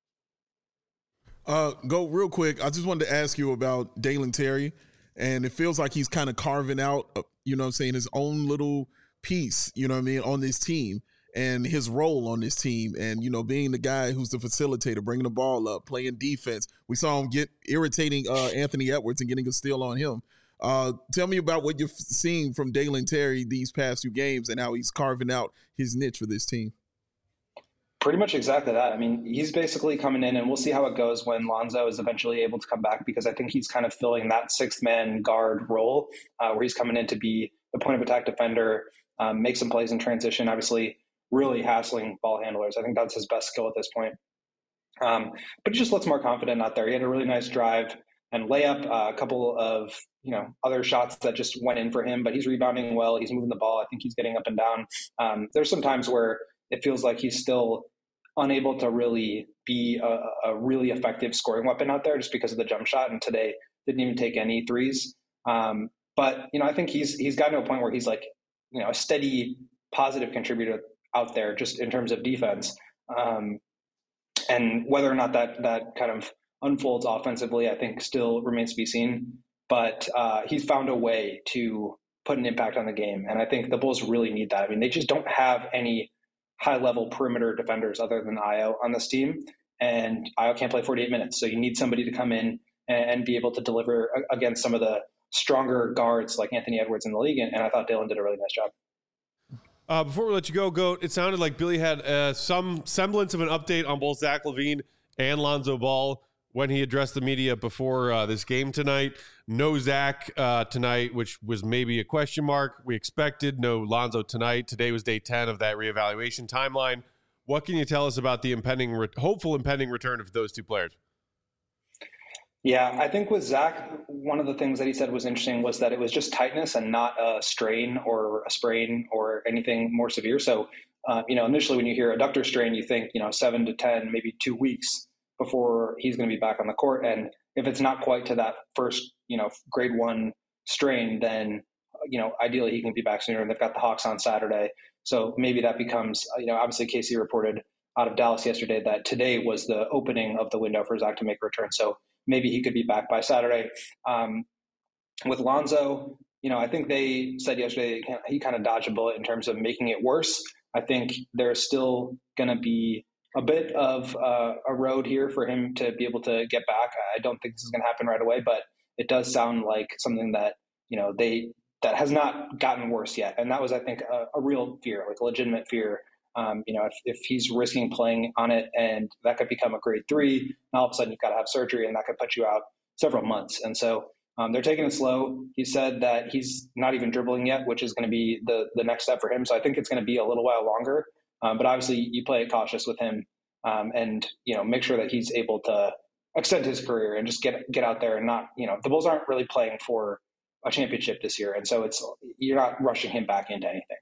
Uh, go real quick. I just wanted to ask you about Dalen Terry, and it feels like he's kind of carving out, uh, you know what I'm saying, his own little piece, you know what I mean, on this team and his role on this team. And, you know, being the guy who's the facilitator, bringing the ball up, playing defense. We saw him get irritating uh, Anthony Edwards and getting a steal on him. Uh, tell me about what you've seen from Dalen Terry these past few games and how he's carving out his niche for this team. Pretty much exactly that. I mean, he's basically coming in, and we'll see how it goes when Lonzo is eventually able to come back, because I think he's kind of filling that sixth man guard role uh, where he's coming in to be the point of attack defender, um, make some plays in transition, obviously really hassling ball handlers. I think that's his best skill at this point. Um, but he just looks more confident out there. He had a really nice drive and layup, uh, a couple of, you know, other shots that just went in for him, but he's rebounding well. He's moving the ball. I think he's getting up and down. Um, there's some times where it feels like he's still unable to really be a, a really effective scoring weapon out there just because of the jump shot. And today didn't even take any threes. Um, but, you know, I think he's, he's gotten to a point where he's like, you know, a steady positive contributor out there just in terms of defense. Um, and whether or not that, that kind of unfolds offensively, I think still remains to be seen, but uh, he's found a way to put an impact on the game. And I think the Bulls really need that. I mean, they just don't have any high level perimeter defenders other than Ayo on this team. And Ayo can't play forty-eight minutes. So you need somebody to come in and, and be able to deliver against some of the stronger guards like Anthony Edwards in the league. And, and I thought Dalen did a really nice job. Uh, before we let you go, Goat, it sounded like Billy had uh, some semblance of an update on both Zach LaVine and Lonzo Ball when he addressed the media before uh, this game tonight. No Zach uh, tonight, which was maybe a question mark. We expected no Lonzo tonight. Today was day ten of that reevaluation timeline. What can you tell us about the impending, re- hopeful impending return of those two players? Yeah, I think with Zach, one of the things that he said was interesting was that it was just tightness and not a strain or a sprain or anything more severe. So, uh, you know, initially when you hear adductor strain, you think, you know, seven to ten, maybe two weeks before he's going to be back on the court. And if it's not quite to that first, you know, grade one strain, then, you know, ideally he can be back sooner. And they've got the Hawks on Saturday. So maybe that becomes, you know, obviously Casey reported out of Dallas yesterday that today was the opening of the window for Zach to make a return. So maybe he could be back by Saturday. Um, with Lonzo, you know, I think they said yesterday he kind of dodged a bullet in terms of making it worse. I think there's still going to be a bit of uh, a road here for him to be able to get back. I don't think this is going to happen right away, but it does sound like something that, you know, they, that has not gotten worse yet. And that was, I think, a, a real fear, like a legitimate fear. Um, you know, if, if he's risking playing on it and that could become a grade three, and all of a sudden you've got to have surgery and that could put you out several months. And so um, they're taking it slow. He said that he's not even dribbling yet, which is going to be the, the next step for him. So I think it's going to be a little while longer. Um, but obviously you play it cautious with him um, and, you know, make sure that he's able to extend his career and just get, get out there and not, you know, the Bulls aren't really playing for a championship this year. And so it's, you're not rushing him back into anything.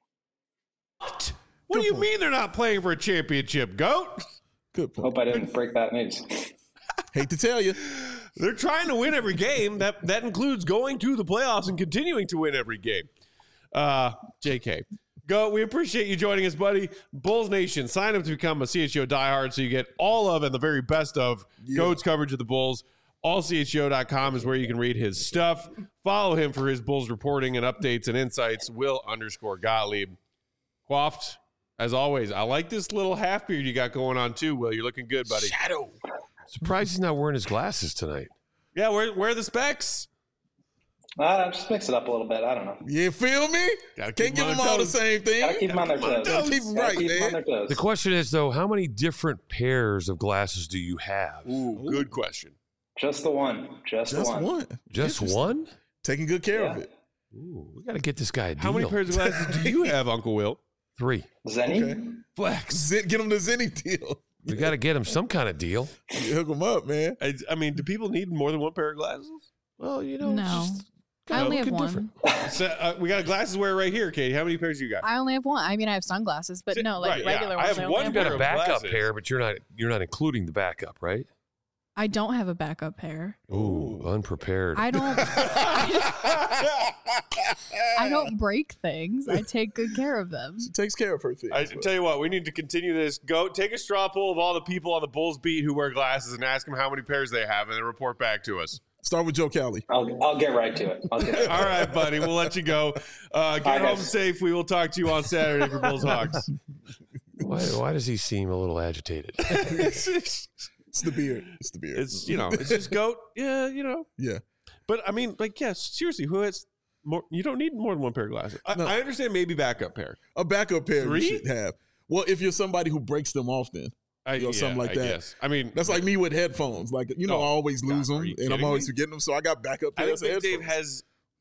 What? What do you mean they're not playing for a championship, Goat? Good point. Hope I didn't break that news. Hate to tell you. They're trying to win every game. That that includes going to the playoffs and continuing to win every game. Uh, J K. Goat, we appreciate you joining us, buddy. Bulls Nation, sign up to become a C H G O diehard so you get all of and the very best of yeah. Goat's coverage of the Bulls. all C H G O dot com is where you can read his stuff. Follow him for his Bulls reporting and updates and insights. Will underscore Gottlieb. Quaffed. As always, I like this little half beard you got going on too, Will. You're looking good, buddy. Shadow. Surprised he's not wearing his glasses tonight. Yeah, where, where are the specs? Uh, just mix it up a little bit. I don't know. You feel me? Can't give them all the same thing. Gotta keep them on their toes. Gotta keep them right, keep man. them on their toes. The question is, though, how many different pairs of glasses do you have? Ooh, good question. Just the one. Just, Just the one. one. Just one? Taking good care Yeah. of it. Ooh, we got to get this guy a deal. How many pairs of glasses do you have, Uncle Will? Three. Zenny? Okay. Flex. Zen, get him the Zenny deal. We got to get him some kind of deal. You hook him up, man. I, I mean, do people need more than one pair of glasses? Well, you know, No. just I only have looking one. different. So, uh, we got a glasses wearer right here, Katie. How many pairs you got? I only have one. I mean, I have sunglasses, but no, like Right, yeah. regular I ones. have I only one have You got pair a of backup glasses. pair, but you're not you're not including the backup, right? I don't have a backup pair. Ooh, unprepared. I don't. I don't break things. I take good care of them. She takes care of her things. I tell you what, we need to continue this. Go take a straw poll of all the people on the Bulls beat who wear glasses and ask them how many pairs they have, and then report back to us. Start with Joe Cali. I'll, I'll get right to it. I'll get right All right, buddy. We'll let you go. Uh, get All right, home guys. safe. We will talk to you on Saturday for Bulls Hawks. Why, why does he seem a little agitated? it's, it's, It's the beard. It's the beard. it's you know, it's just goat. Yeah, you know. yeah. But I mean, like, yes, seriously, who has more? You don't need more than one pair of glasses. I, No. I understand maybe backup pair. A backup pair Three? you should have. Well, if you're somebody who breaks them often, I, Or something like I that. guess. I mean, that's like me with headphones. Like, you know, Oh, I always lose God, are them, you and I'm kidding always me? forgetting them. So I got backup I pairs think of Big Dave headphones. has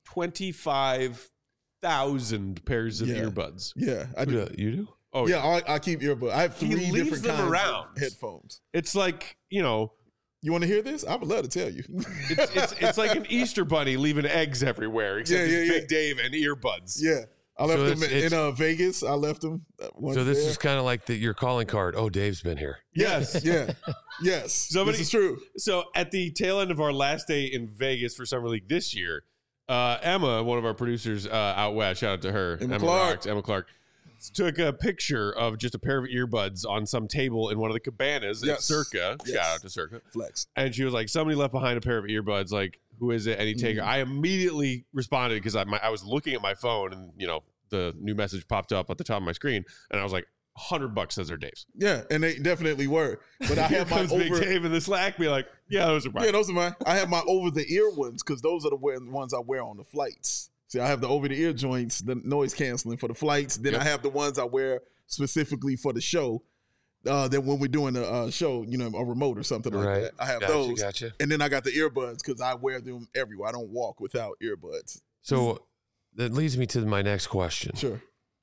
twenty-five thousand pairs of Yeah. earbuds. Yeah, I do. You do? Oh yeah, I, I keep earbuds. I have He three leaves different them kinds around. of headphones. It's like, you know, You want to hear this? I would love to tell you. it's it's, it's like an Easter bunny leaving eggs everywhere, except Yeah, it's yeah, Big Dave and earbuds. yeah, I left So them it's- in, it's- in uh, Vegas. I left them. uh, once So this there. is kind of like the, your calling card. Oh, Dave's been here. Yes. yeah, yes. Somebody- this is true. So at the tail end of our last day in Vegas for Summer League this year, uh, Emma, one of our producers uh, out west, shout out to her, Emma Clark. rocks, Emma Clark, took a picture of just a pair of earbuds on some table in one of the cabanas at Yes. Circa. Yes. Shout out to Circa. Flex. And she was like, somebody left behind a pair of earbuds. Like, who is it? And he take. Mhm. I immediately responded because I, my, I was looking at my phone and, you know, the new message popped up at the top of my screen. And I was like, one hundred bucks says they're Dave's. Yeah, and they definitely were. But I Here have my comes Big over. Dave in the Slack be like, yeah, those are mine. Yeah, those are mine. I have my over the ear ones because those are the wear- ones I wear on the flights. See, I have the over the ear joints, the noise canceling for the flights. Then Yep. I have the ones I wear specifically for the show. Uh, that when we're doing a uh, show, you know, a remote or something like Right. that. I have Gotcha, those. gotcha. And then I got the earbuds because I wear them everywhere. I don't walk without earbuds. So that leads me to my next question. Sure.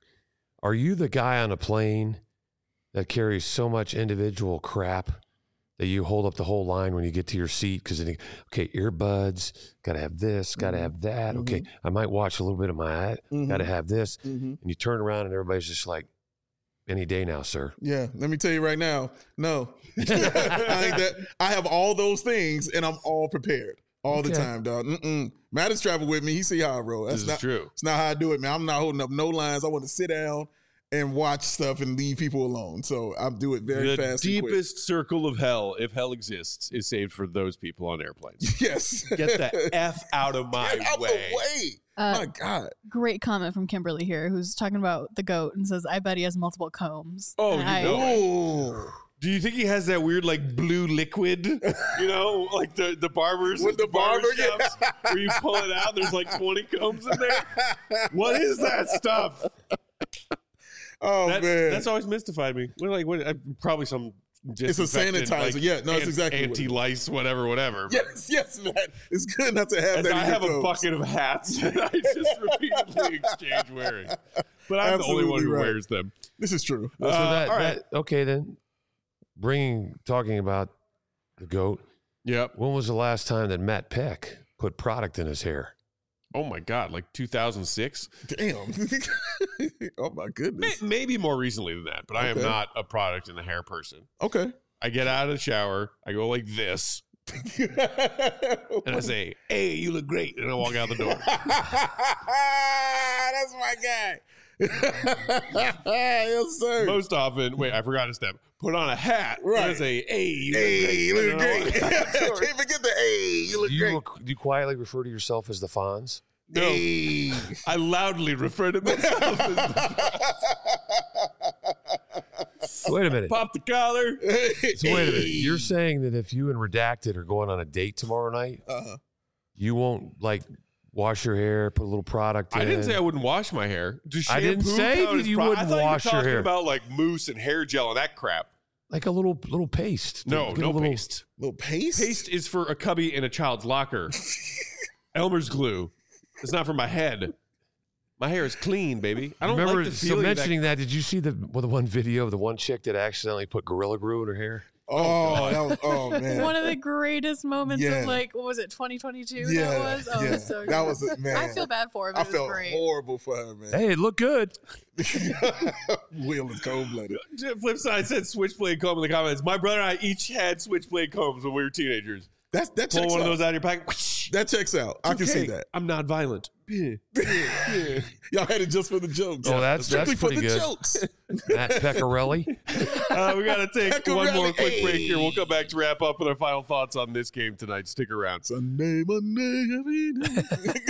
Are you the guy on a plane that carries so much individual crap that you hold up the whole line when you get to your seat? Because, okay, earbuds, got to have this, got to Mhm. have that. Okay, I might watch a little bit of my ad, got to Mhm. have this. Mm-hmm. And you turn around and everybody's just like, any day now, sir. Yeah, let me tell you right now. No, I ain't that. I have all those things, and I'm all prepared all the Okay. time, dog. Mm-mm. Matt has traveled with me. He see how I roll. That's This not is true. It's not how I do it, man. I'm not holding up no lines. I want to sit down and watch stuff and leave people alone. So I do it very The fast. and quick. deepest circle of hell, if hell exists, is saved for those people on airplanes. Yes. Get the F out of my Get out way. the way. Uh, My God. Great comment from Kimberly here, who's talking about the goat and says, "I bet he has multiple combs." Oh, And you I, know it. Oh. Do you think he has that weird like blue liquid? You know, like the, the barbers With the barber, shops yeah. where you pull it out, there's like twenty combs in there. What is that stuff? Oh, That- man. That's always mystified me. We're like, what, uh, probably some It's a disinfectant, sanitizer. like, Yeah, no, it's an- exactly what it is. anti-lice, whatever, whatever. Yes, yes, man. It's good not to have As that. I in your have a clothes. bucket of hats that I just repeatedly exchange wearing. But I'm the only one Absolutely who right. wears them. This is true. So Uh, that, all right. that, okay, then, bringing, talking about the goat, Yep. when was the last time that Matt Peck put product in his hair? Oh my God, like two thousand six? Damn. Oh my goodness. Maybe more recently than that, but I am Okay. not a product in the hair person. Okay. I get out of the shower, I go like this, and I say, "Hey, you look great," and I walk out the door. That's my guy. Yes, sir. Most often, wait, I forgot a step. Put on a hat, and I Right. say, "Hey, you Hey, look you great." look and I great. walk out the door. Can't forget the hey, you look Do you, great. rec- do you quietly refer to yourself as the Fonz? No, Hey. I loudly refer to myself as Wait a minute. pop the collar. So wait a minute. You're saying that if you and Redacted are going on a date tomorrow night, Uh-huh. you won't like wash your hair, put a little product in? I didn't say I wouldn't wash my hair. Does I didn't shampoo say count that as you pro- wouldn't I thought wash you your were talking hair. about like mousse and hair gel and that crap. like a little little paste. No, Get a no little, paste. Little paste? Paste is for a cubby in a child's locker. Elmer's glue. It's not for my head. My hair is clean, baby. I don't Remember, like the so feeling of mentioning that, did you see the well, the one video of the one chick that accidentally put Gorilla Glue in her hair? Oh, that was, oh man. One of the greatest moments Yeah. of like, what was it, twenty twenty-two? Yeah, That was? Oh, yeah. it was so good. That was it, man. I feel bad for him. I It was felt great. horrible for her, man. Hey, it looked good. Will is cold blooded. Flip side said switchblade comb in the comments. My brother and I each had switchblade combs when we were teenagers. That's that Pull checks one out. of those out of your pocket. Whoosh. That checks out. I can see Okay, that. I'm not violent. Yeah, yeah, yeah. Y'all had it just for the jokes. Oh, that's- strictly that's for pretty the good. jokes. Matt Pecorelli. Uh, we got to take Pecorelli. one more quick break here. We'll come back to wrap up with our final thoughts on this game tonight. Stick around. Sunday, Monday, every day.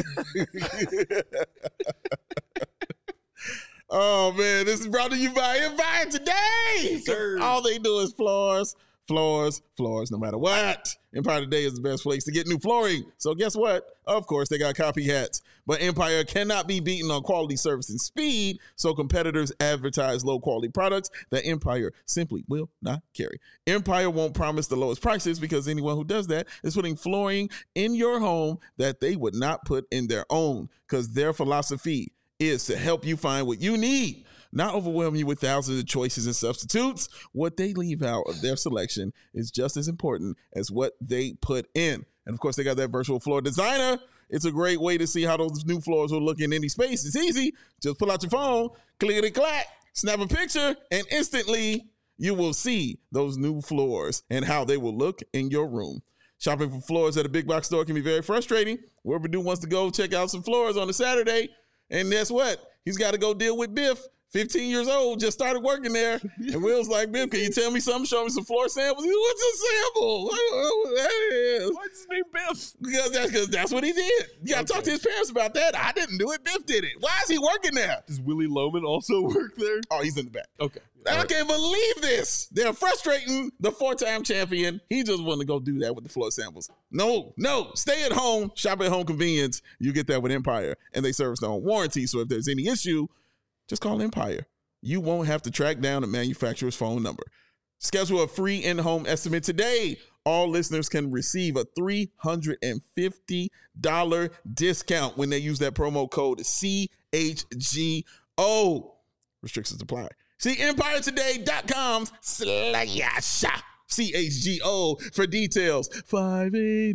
Oh man, this is brought to you by Empire Today. Sir. All they do is floors, floors, floors, no matter what. Empire Today is the best place to get new flooring. So guess what? Of course, they got copycats. But Empire cannot be beaten on quality, service, and speed. So competitors advertise low-quality products that Empire simply will not carry. Empire won't promise the lowest prices because anyone who does that is putting flooring in your home that they would not put in their own, because their philosophy is to help you find what you need, not overwhelm you with thousands of choices and substitutes. What they leave out of their selection is just as important as what they put in. And of course, they got that virtual floor designer. It's a great way to see how those new floors will look in any space. It's easy. Just pull out your phone, clickety clack, snap a picture, and instantly you will see those new floors and how they will look in your room. Shopping for floors at a big box store can be very frustrating. Wherever Purdue wants to go check out some floors on a Saturday, and guess what? He's got to go deal with Biff, fifteen years old, just started working there. And Will's like, Biff, can you tell me something? Show me some floor samples. He, What's a sample? I don't know what that is. What's his name, Biff? Because that's, because that's what he did. You got to talk to his parents about that. I didn't do it. Biff did it. Why is he working there? Does Willie Loman also work there? Oh, he's in the back. Okay. I can't believe this. They're frustrating the four-time champion. He just wanted to go do that with the floor samples. No, no. Stay at home. Shop at home convenience. You get that with Empire. And they service their own warranty. So if there's any issue, just call Empire. You won't have to track down a manufacturer's phone number. Schedule a free in-home estimate today. All listeners can receive a three hundred fifty dollars discount when they use that promo code C H G O. Restrictions apply. See empire today dot com slash C H G O for details. five eight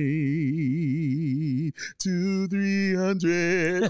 eight, two three hundred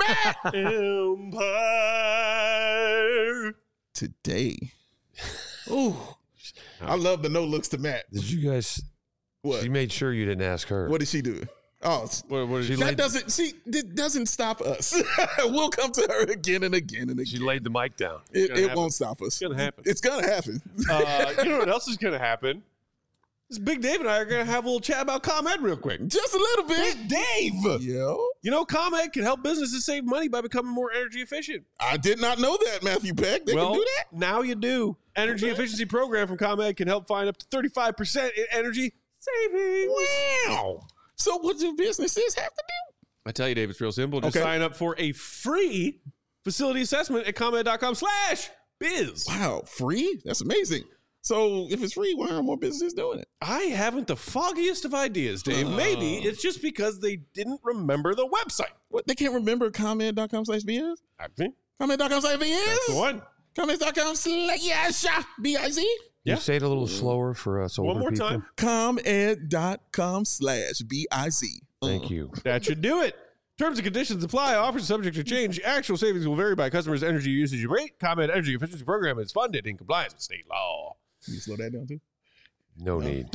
Empire Today. Ooh. I love the no looks to Matt. Did you guys? What? She made sure you didn't ask her. What did she do? Oh, What, what did She you that laid- doesn't see that doesn't stop us. We'll come to her again and again and She again. laid the mic down. It, gonna it happen. won't stop us. It's gonna happen. It's gonna happen. Uh, you know what else is going to happen? This Big Dave and I are going to have a little chat about ComEd real quick. Just a little bit. Big Dave! Yo, You know, ComEd can help businesses save money by becoming more energy efficient. I did not know that, Matthew Peck. They well, can do that. now you do. Energy efficiency program from ComEd can help find up to thirty-five percent in energy savings. Wow. So what do businesses have to do? I tell you, Dave, it's real simple. Just Okay. sign up for a free facility assessment at ComEd.com slash biz. Wow, free? That's amazing. So if it's free, why aren't more businesses doing it? I haven't the foggiest of ideas, Dave. Maybe it's just because they didn't remember the website. What, they can't remember comment dot com slash biz? I think comment dot com slash biz? that's the one. comment dot com slash B I Z? Yeah. You say it a little slower for us older One more people. time. comed dot com slash B I Z. Thank you. That should do it. Terms and conditions apply. Offers subject to change. Actual savings will vary by customers' energy usage rate. ComEd Energy Efficiency Program is funded in compliance with state law. Can you slow that down too? No need.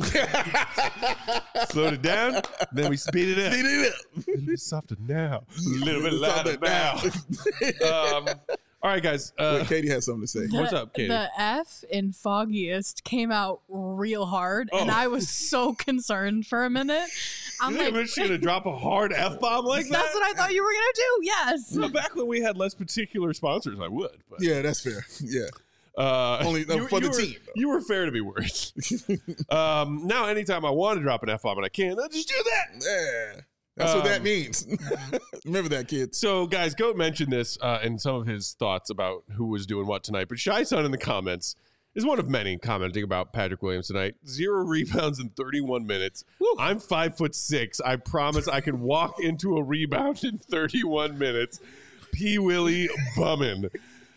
Slowed it down, then we speed it up. Speed it up. A little bit softer now. A little bit Softer louder now. um, all right, guys. Uh, Wait, Katie has something to say. What's up, Katie? The F in Foggiest came out real hard, and Oh. I was so concerned for a minute. I'm you think like, I'm just going to drop a hard F-bomb like that? that's what I thought you were gonna do. Yes. Well, back when we had less particular sponsors, I would. But, Yeah, that's fair. Yeah. uh, Only, uh, for the were, team. You were fair to be worried. um, now, anytime I want to drop an F-bomb and I can, I'll just do that. Yeah. That's what that Um, means. Remember that, kids. So, guys, Goat mentioned this uh, in some of his thoughts about who was doing what tonight. But Shy Son in the comments is one of many commenting about Patrick Williams tonight. Zero rebounds in thirty-one minutes. I'm five foot six. I promise I can walk into a rebound in thirty-one minutes. P. Willie Bummin.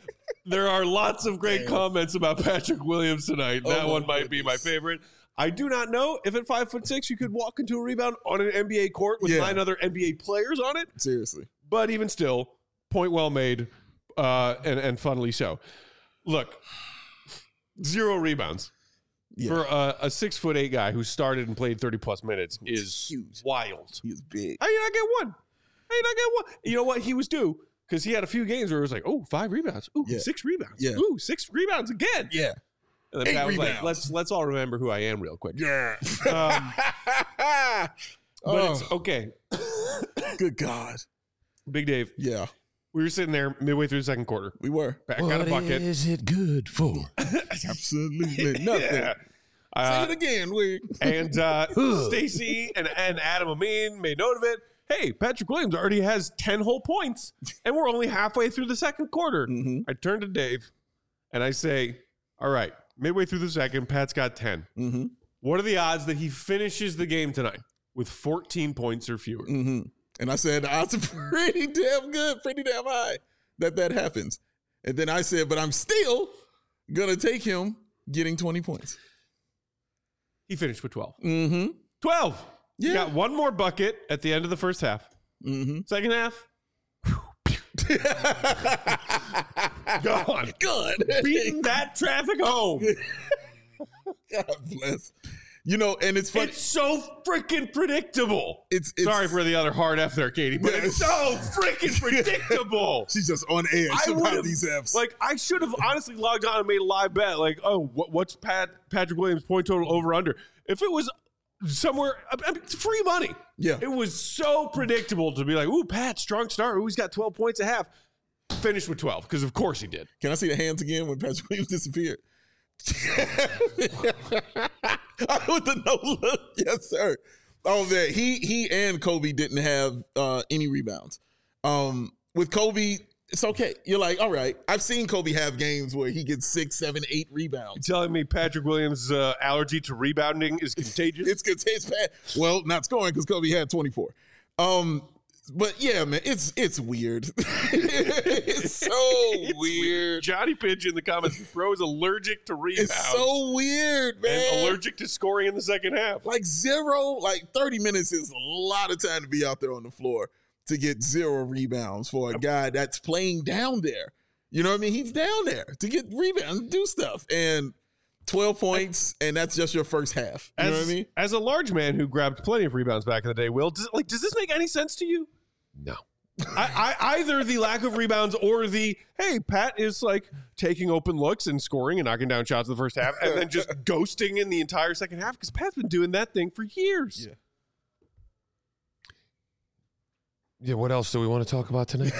There are lots of great Damn. comments about Patrick Williams tonight. Oh That my one might be my goodness. favorite. I do not know if at five foot six you could walk into a rebound on an N B A court with Yeah. nine other N B A players on it. Seriously. But even still, point well made, uh, and and funnily so. Look, zero rebounds Yeah. for a, a six foot eight guy who started and played thirty plus minutes is huge. wild. He is big. How you not get one? How you not get one? You know what? He was due because he had a few games where it was like, oh, five rebounds. Ooh, Yeah. six rebounds. Yeah. Ooh, six rebounds again. Yeah. And then Eight Pat was like, rebounds. let's let's all remember who I am real quick. Yeah. Um, but oh, it's okay. good God. Big Dave, Yeah, we were sitting there midway through the second quarter. we were. Back got a bucket. is it good for? Absolutely nothing. Yeah. Say Uh, it again, Wig. and uh, Stacy and, and Adam Amin made note of it. Hey, Patrick Williams already has ten whole points, and we're only halfway through the second quarter. Mhm. I turn to Dave, and I say, all right, midway through the second, Pat's got ten. Mm-hmm. What are the odds that he finishes the game tonight with fourteen points or fewer? Mm-hmm. And I said, the odds are pretty damn good, pretty damn high that that happens. And then I said, but I'm still going to take him getting twenty points. He finished with twelve. Mm-hmm. twelve. He Yeah. got one more bucket at the end of the first half. Mm-hmm. Second half, gone. Good. Beating that traffic home. God bless. You know, and it's funny. It's so freaking predictable. It's, it's Sorry for the other hard F there, Katie, but Yeah. it's so freaking predictable. She's just on edge I about would've- these Fs. Like, I should have honestly logged on and made a live bet. Like, oh, what, what's Pat Patrick Williams' point total over under? If it was somewhere, I mean, it's free money. Yeah. It was so predictable to be like, ooh, Pat, strong start. Ooh, he's got twelve points a half. Finished with twelve, because of course he did. Can I see the hands again when Patrick Williams disappeared? With the no look, yes, sir. Oh man, he he and Kobe didn't have uh, any rebounds. Um, with Kobe, it's okay. You're like, all right. I've seen Kobe have games where he gets six, seven, eight rebounds. Telling me Patrick Williams' uh, allergy to rebounding is contagious? It's it's, it's bad. Well, not scoring because Kobe had twenty-four. Um, but yeah, man, it's it's weird. It's so It's weird. Johnny Pidge in the comments, bro is allergic to rebounds. It's so weird, man. and allergic to scoring in the second half. Like zero, like thirty minutes is a lot of time to be out there on the floor to get zero rebounds for a guy that's playing down there. You know what I mean? He's down there to get rebounds, do stuff. And twelve points, and that's just your first half. You As, know what I mean? as a large man who grabbed plenty of rebounds back in the day, Will, does, like, does this make any sense to you? No. I, I, either the lack of rebounds or the, hey, Pat is like taking open looks and scoring and knocking down shots in the first half and then just ghosting in the entire second half, because Pat's been doing that thing for years. Yeah. Yeah, what else do we want to talk about tonight?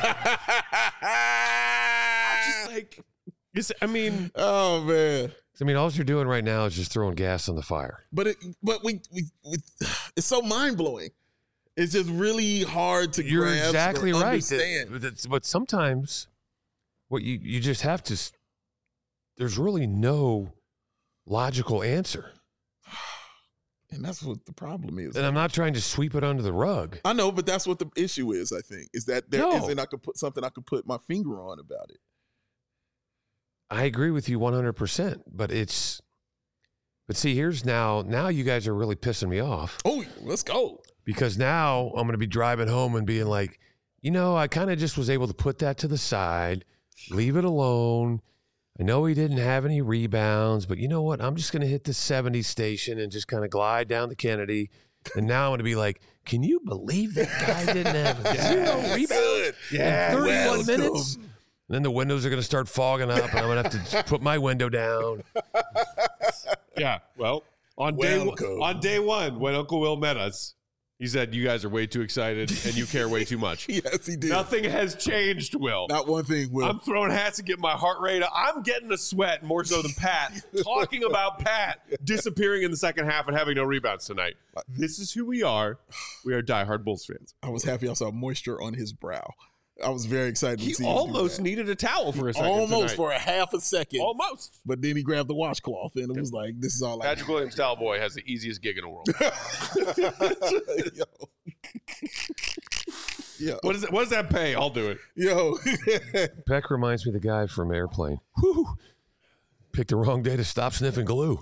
Just like, it's, I mean, Oh man. I mean, all you're doing right now is just throwing gas on the fire. But it but we we, we it's so mind blowing. It's just really hard to You're grasp exactly or right. understand. That- that's- but sometimes what you, you just have to, s- there's really no logical answer. And that's what the problem is. And I'm not trying to sweep it under the rug. I know, but that's what the issue is, I think, is that there No. not I could put something I could put my finger on about it. I agree with you one hundred percent, but it's, but see, here's now, now you guys are really pissing me off Oh, let's go. because now I'm going to be driving home and being like, you know, I kind of just was able to put that to the side, leave it alone. I know he didn't have any rebounds, but you know what? I'm just going to hit the seventy station and just kind of glide down the Kennedy. And now I'm going to be like, can you believe that guy didn't have zero rebounds Good. in thirty-one welcome. minutes? And then the windows are going to start fogging up, and I'm going to have to put my window down. yeah. Well, on day Welcome. on day one, when Uncle Will met us, he said, you guys are way too excited and you care way too much. Yes, he did. Nothing has changed, Will. Not one thing, Will. I'm throwing hats and getting my heart rate up. I'm getting a sweat more so than Pat. Talking about Pat disappearing in the second half and having no rebounds tonight. This is who we are. We are diehard Bulls fans. I was happy I saw moisture on his brow. I was very excited He to see him do almost that. needed a towel for a second. Almost tonight. for a half a second. Almost. But then he grabbed the washcloth and it was like, this is all I Patrick Williams, towel boy, has the easiest gig in the world. Yo. Yeah. What, is it, what does that pay? I'll do it. Yo. Peck reminds me of the guy from Airplane. Whew. Picked the wrong day to stop sniffing glue.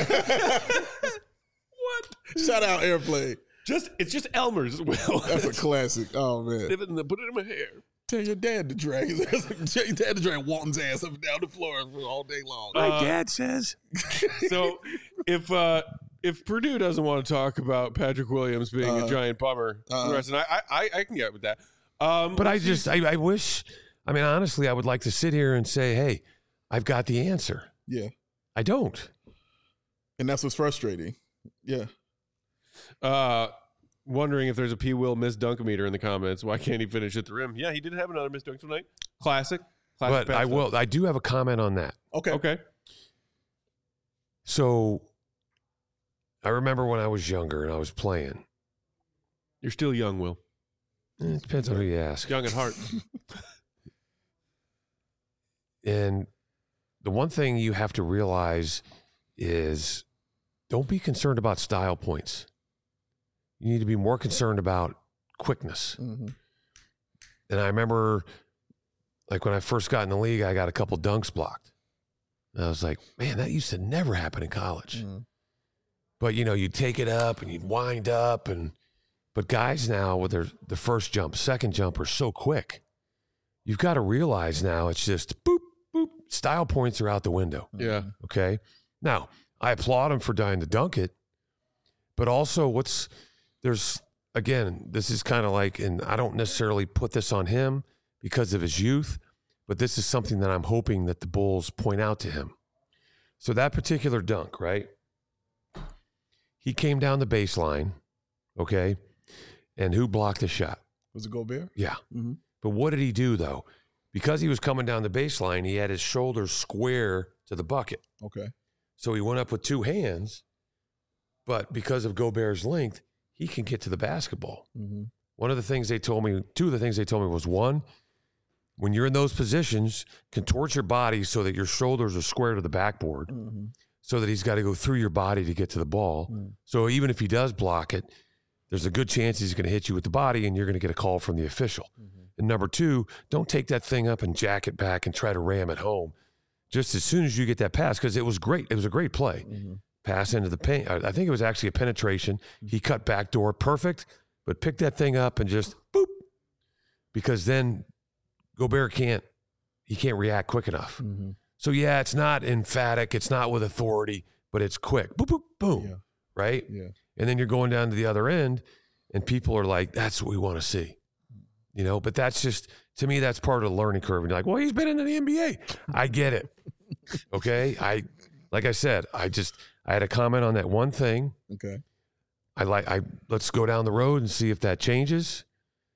What? Shout out Airplane. Just It's just Elmer's, Will. That's a classic. Oh, man. Sniff it and then put it in my hair. Tell your dad to drag Tell your dad to drag Walton's ass up and down the floor all day long. My Uh, dad says. So if uh, if Purdue doesn't want to talk about Patrick Williams being Uh, a giant bummer, uh, the rest, and I, I, I can get with that. Um, But I let's see. just, I, I wish, I mean, honestly, I would like to sit here and say, hey, I've got the answer. Yeah. I don't. And that's what's frustrating. Yeah. Uh, wondering if there's a P. Will missed dunkometer in the comments. Why can't he finish at the rim? Yeah, he did have another missed dunk tonight. Classic. Classic But I will, I do have a comment on that. Okay. Okay. So I remember when I was younger and I was playing. You're still young, Will. Eh, It depends on who you ask. Young at heart. And the one thing you have to realize is don't be concerned about style points. You need to be more concerned about quickness. Mm-hmm. And I remember, like, when I first got in the league, I got a couple dunks blocked. And I was like, man, that used to never happen in college. Mm-hmm. But, you know, you'd take it up and you'd wind up. and But guys now with their the first jump, second jump are so quick. You've got to realize now it's just boop, boop. Style points are out the window. Yeah. Okay. Now, I applaud him for dying to dunk it. But also, what's there's again, this is kind of like, and I don't necessarily put this on him because of his youth, but this is something that I'm hoping that the Bulls point out to him. So that particular dunk, right? He came down the baseline, okay? And who blocked the shot? Was it Gobert? Yeah. Mm-hmm. But what did he do, though? Because he was coming down the baseline, he had his shoulders square to the bucket. Okay. So he went up with two hands, but because of Gobert's length, he can get to the basketball. Mm-hmm. One of the things they told me, two of the things they told me was, one, when you're in those positions, contort your body so that your shoulders are square to the backboard, Mm-hmm. so that he's got to go through your body to get to the ball. Mm. So even if he does block it, there's a good chance he's going to hit you with the body and you're going to get a call from the official. Mm-hmm. And number two, don't take that thing up and jack it back and try to ram it home. Just as soon as you get that pass, because it was great. It was a great play. Mm-hmm. Pass into the paint. I think it was actually a penetration. He cut back door, perfect, but pick that thing up and just boop. Because then Gobert can't, he can't react quick enough. Mm-hmm. So yeah, it's not emphatic, it's not with authority, but it's quick. Boop, boop, boom. Yeah. Right? Yeah. And then you're going down to the other end and people are like, that's what we want to see. You know, but that's just, to me, that's part of the learning curve. And you're like, well, he's been in the N B A. I get it. Okay. I, like I said, I just, I had a comment on that one thing. Okay. I like, I, let's go down the road and see if that changes.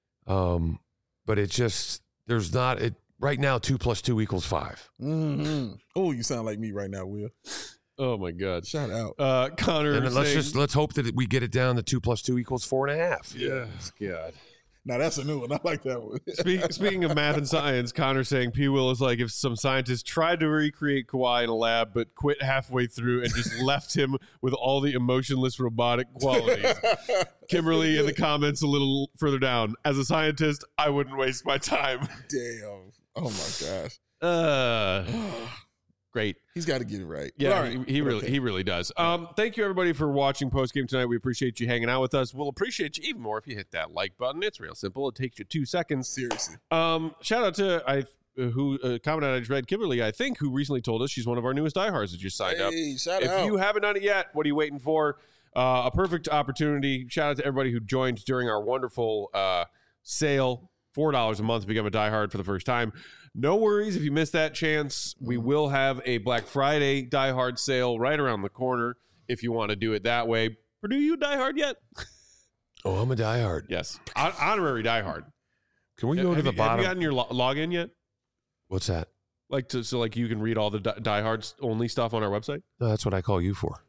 Um, but it just, there's not, it, right now, two plus two equals five. Mm-hmm. Oh, you sound like me right now, Will. Oh, my God. Shout out. Uh, Connor. And then let's saying- just, let's hope that we get it down to two plus two equals four and a half. Yeah. God. Now that's a new one. I like that one. Speak, speaking of math and science, Connor saying P. Will is like if some scientists tried to recreate Kawhi in a lab but quit halfway through and just left him with all the emotionless robotic qualities. Kimberly in the comments a little further down. As a scientist, I wouldn't waste my time. Damn. Oh my gosh. Uh, great. He's got to get it right. Yeah, All right. he, he really Okay. he really does. Um, thank you everybody for watching postgame tonight. We appreciate you hanging out with us. We'll appreciate you even more if you hit that like button. It's real simple. It takes you two seconds. Seriously. Um, shout out to I uh, who uh, comment I just read Kimberly, I think, who recently told us she's one of our newest diehards that just signed up. Hey, shout If out. you haven't done it yet, what are you waiting for? Uh, a perfect opportunity. Shout out to everybody who joined during our wonderful uh, sale. four dollars a month to become a diehard for the first time. No worries if you missed that chance. We will have a Black Friday diehard sale right around the corner if you want to do it that way. Purdue, you a diehard yet? Oh, I'm a diehard. Yes. Hon- honorary diehard. Can we go have to the you, bottom? Have you gotten your lo- login yet? What's that? Like to so like you can read all the di- diehards only stuff on our website? No, that's what I call you for.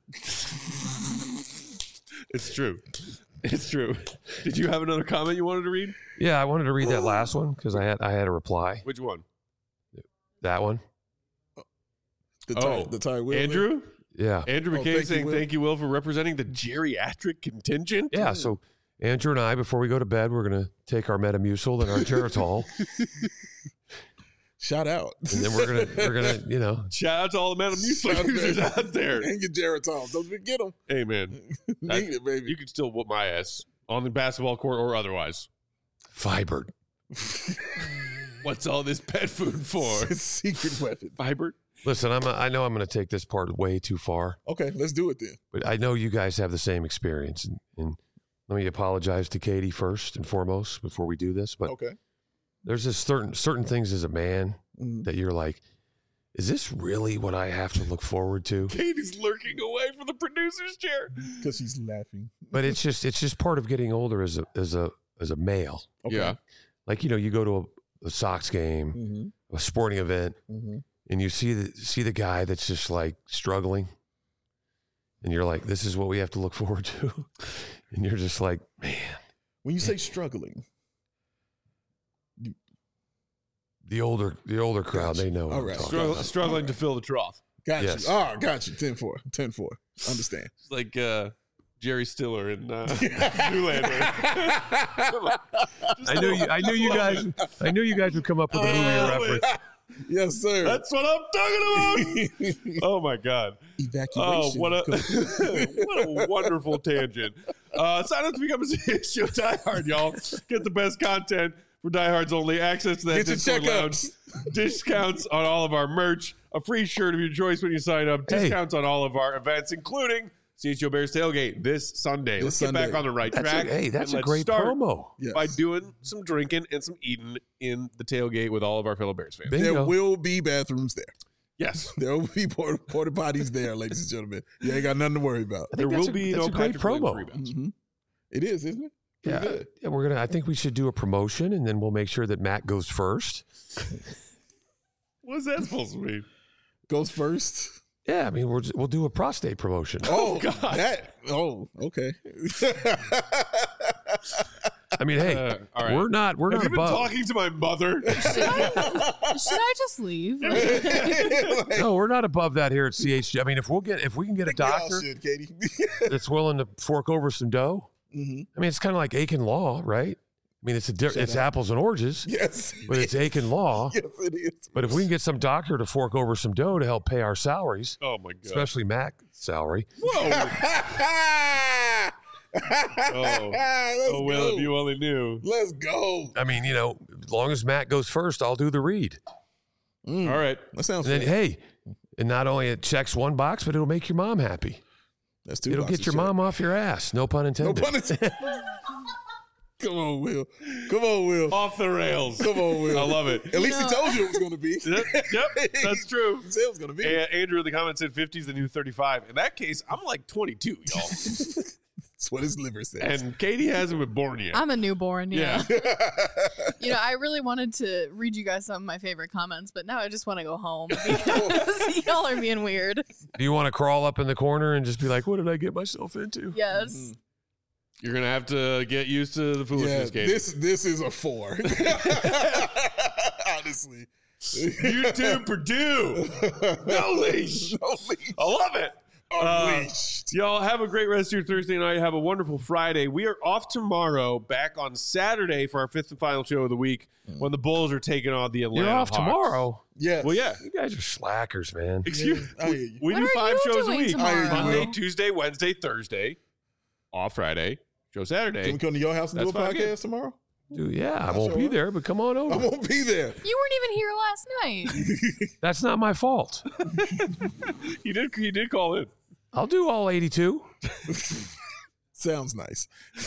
It's true. It's true. Did you have another comment you wanted to read? Yeah, I wanted to read that last one because I had I had a reply. Which one? That one. The Oh, Ty, the Ty Will Andrew? Yeah. Andrew Oh, McCabe thank you, saying Will. thank you, Will, for representing the geriatric contingent. Yeah. So Andrew and I, before we go to bed, we're going to take our Metamucil and our Geritol. Shout out. And then we're going to, we're going to, you know. Shout out to all the Metamucil users out there. And your Geritol. Don't forget them. Hey, man. Need it, baby. You can still whoop my ass on the basketball court or otherwise. Fiber. What's all this pet food for? It's a secret weapon. Fiber? Listen, I'm a, I know I'm going to take this part way too far. Okay, let's do it then. But I know you guys have the same experience. And, and let me apologize to Katie first and foremost before we do this. But Okay. there's just certain certain things as a man Mhm. that you're like, is this really what I have to look forward to? Katie's lurking away from the producer's chair. Because she's laughing. But it's just it's just part of getting older as a as a as a male. Okay. Yeah. Like, you know, you go to a, a Sox game, Mm-hmm. a sporting event, Mm-hmm. and you see the see the guy that's just like struggling, and you're like, this is what we have to look forward to, and you're just like, man. When you say struggling, The older the older crowd, Gotcha. they know. What All I'm right. talking Struggle, about. struggling to fill the trough. got Yes. you. Oh, got you. ten four. ten four. Understand. It's like uh, Jerry Stiller in uh, Zoolander. I knew you. I knew you guys. I knew you guys would come up with a movie Oh, reference. Yes, sir. That's what I'm talking about. Oh, my God. Evacuation. Oh, what a what a wonderful tangent. Uh, sign up to become a C H G O diehard, y'all. Get the best content for diehards only. Access to that Get your Discord lounge. checkups. Discounts on all of our merch. A free shirt of your choice when you sign up. Hey. Discounts on all of our events, including C H G O Bears Tailgate this Sunday. This Let's Sunday. get back on the right That's track. a, hey, that's and a let's great start promo. Yes. by doing some drinking and some eating in the tailgate with all of our fellow Bears fans. Bingo. There will be bathrooms there. Yes. There will be porta, porta potties there, ladies and gentlemen. You ain't got nothing to worry about. I There think that's will a- be that's no a great Patrick Williams promo. rebounds. Mm-hmm. It is, isn't it? Pretty Yeah, good. yeah, we're gonna. I think we should do a promotion, and then we'll make sure that Matt goes first. What's that supposed to mean? Goes first. Yeah, I mean, we'll we'll do a prostate promotion. Oh, God. That. Oh, okay. I mean, hey, Uh, all right. we're not we're Have not you been above. talking to my mother? Should I just leave? No, we're not above that here at C H G. I mean, if we'll get if we can get a We all doctor should, Katie. that's willing to fork over some dough. hmm I mean, it's kind of like Aiken Law, right? I mean, it's a di- Shut it's up. apples and oranges, Yes. but it's Aiken Law. Yes, it is. But if we can get some doctor to fork over some dough to help pay our salaries, Oh my god! especially Mac's salary, Whoa! oh, Oh well, if you only knew. Let's go. I mean, you know, as long as Matt goes first, I'll do the read. Mm, All right. that sounds And then, fair. hey, and not only it checks one box, but it'll make your mom happy. That's two It'll boxes get your checked. mom off your ass. No pun No intended. pun intended. Come on, Will. Come on, Will. Off the rails. Come on, Will. I love it. At least he No. told you it was going to be. Yep, yep, that's true. He said it was going to be. A- Andrew in the comments said fifty is the new thirty-five. In that case, I'm like twenty-two, y'all. That's what his liver says. And Katie hasn't been born yet. I'm a newborn, yeah. Yeah. You know, I really wanted to read you guys some of my favorite comments, but now I just want to go home because y'all are being weird. Do you want to crawl up in the corner and just be like, what did I get myself into? Yes. You're gonna have to get used to the yeah, foolishness, Katie. this this is a four. Honestly. YouTube Purdue. No leash. No leash. I love it. Unleashed. Y'all have a great rest of your Thursday night. Have a wonderful Friday. We are off tomorrow, back on Saturday for our fifth and final show of the week when the Bulls are taking on the Atlanta You're off Hawks. tomorrow. Yes. Well, yeah. You guys are slackers, man. Excuse Yeah, I hear you. We What do are five you shows a doing week. tomorrow? Monday, Will. Tuesday, Wednesday, Thursday. Off Friday. Show Saturday. Can we come to your house and do a That's fine, podcast good. tomorrow? Dude, yeah, I I'll won't show be up. there, but come on I over. won't be there. You weren't even here last night. That's not my fault. He did. He did call in. I'll do all eighty-two. Sounds nice.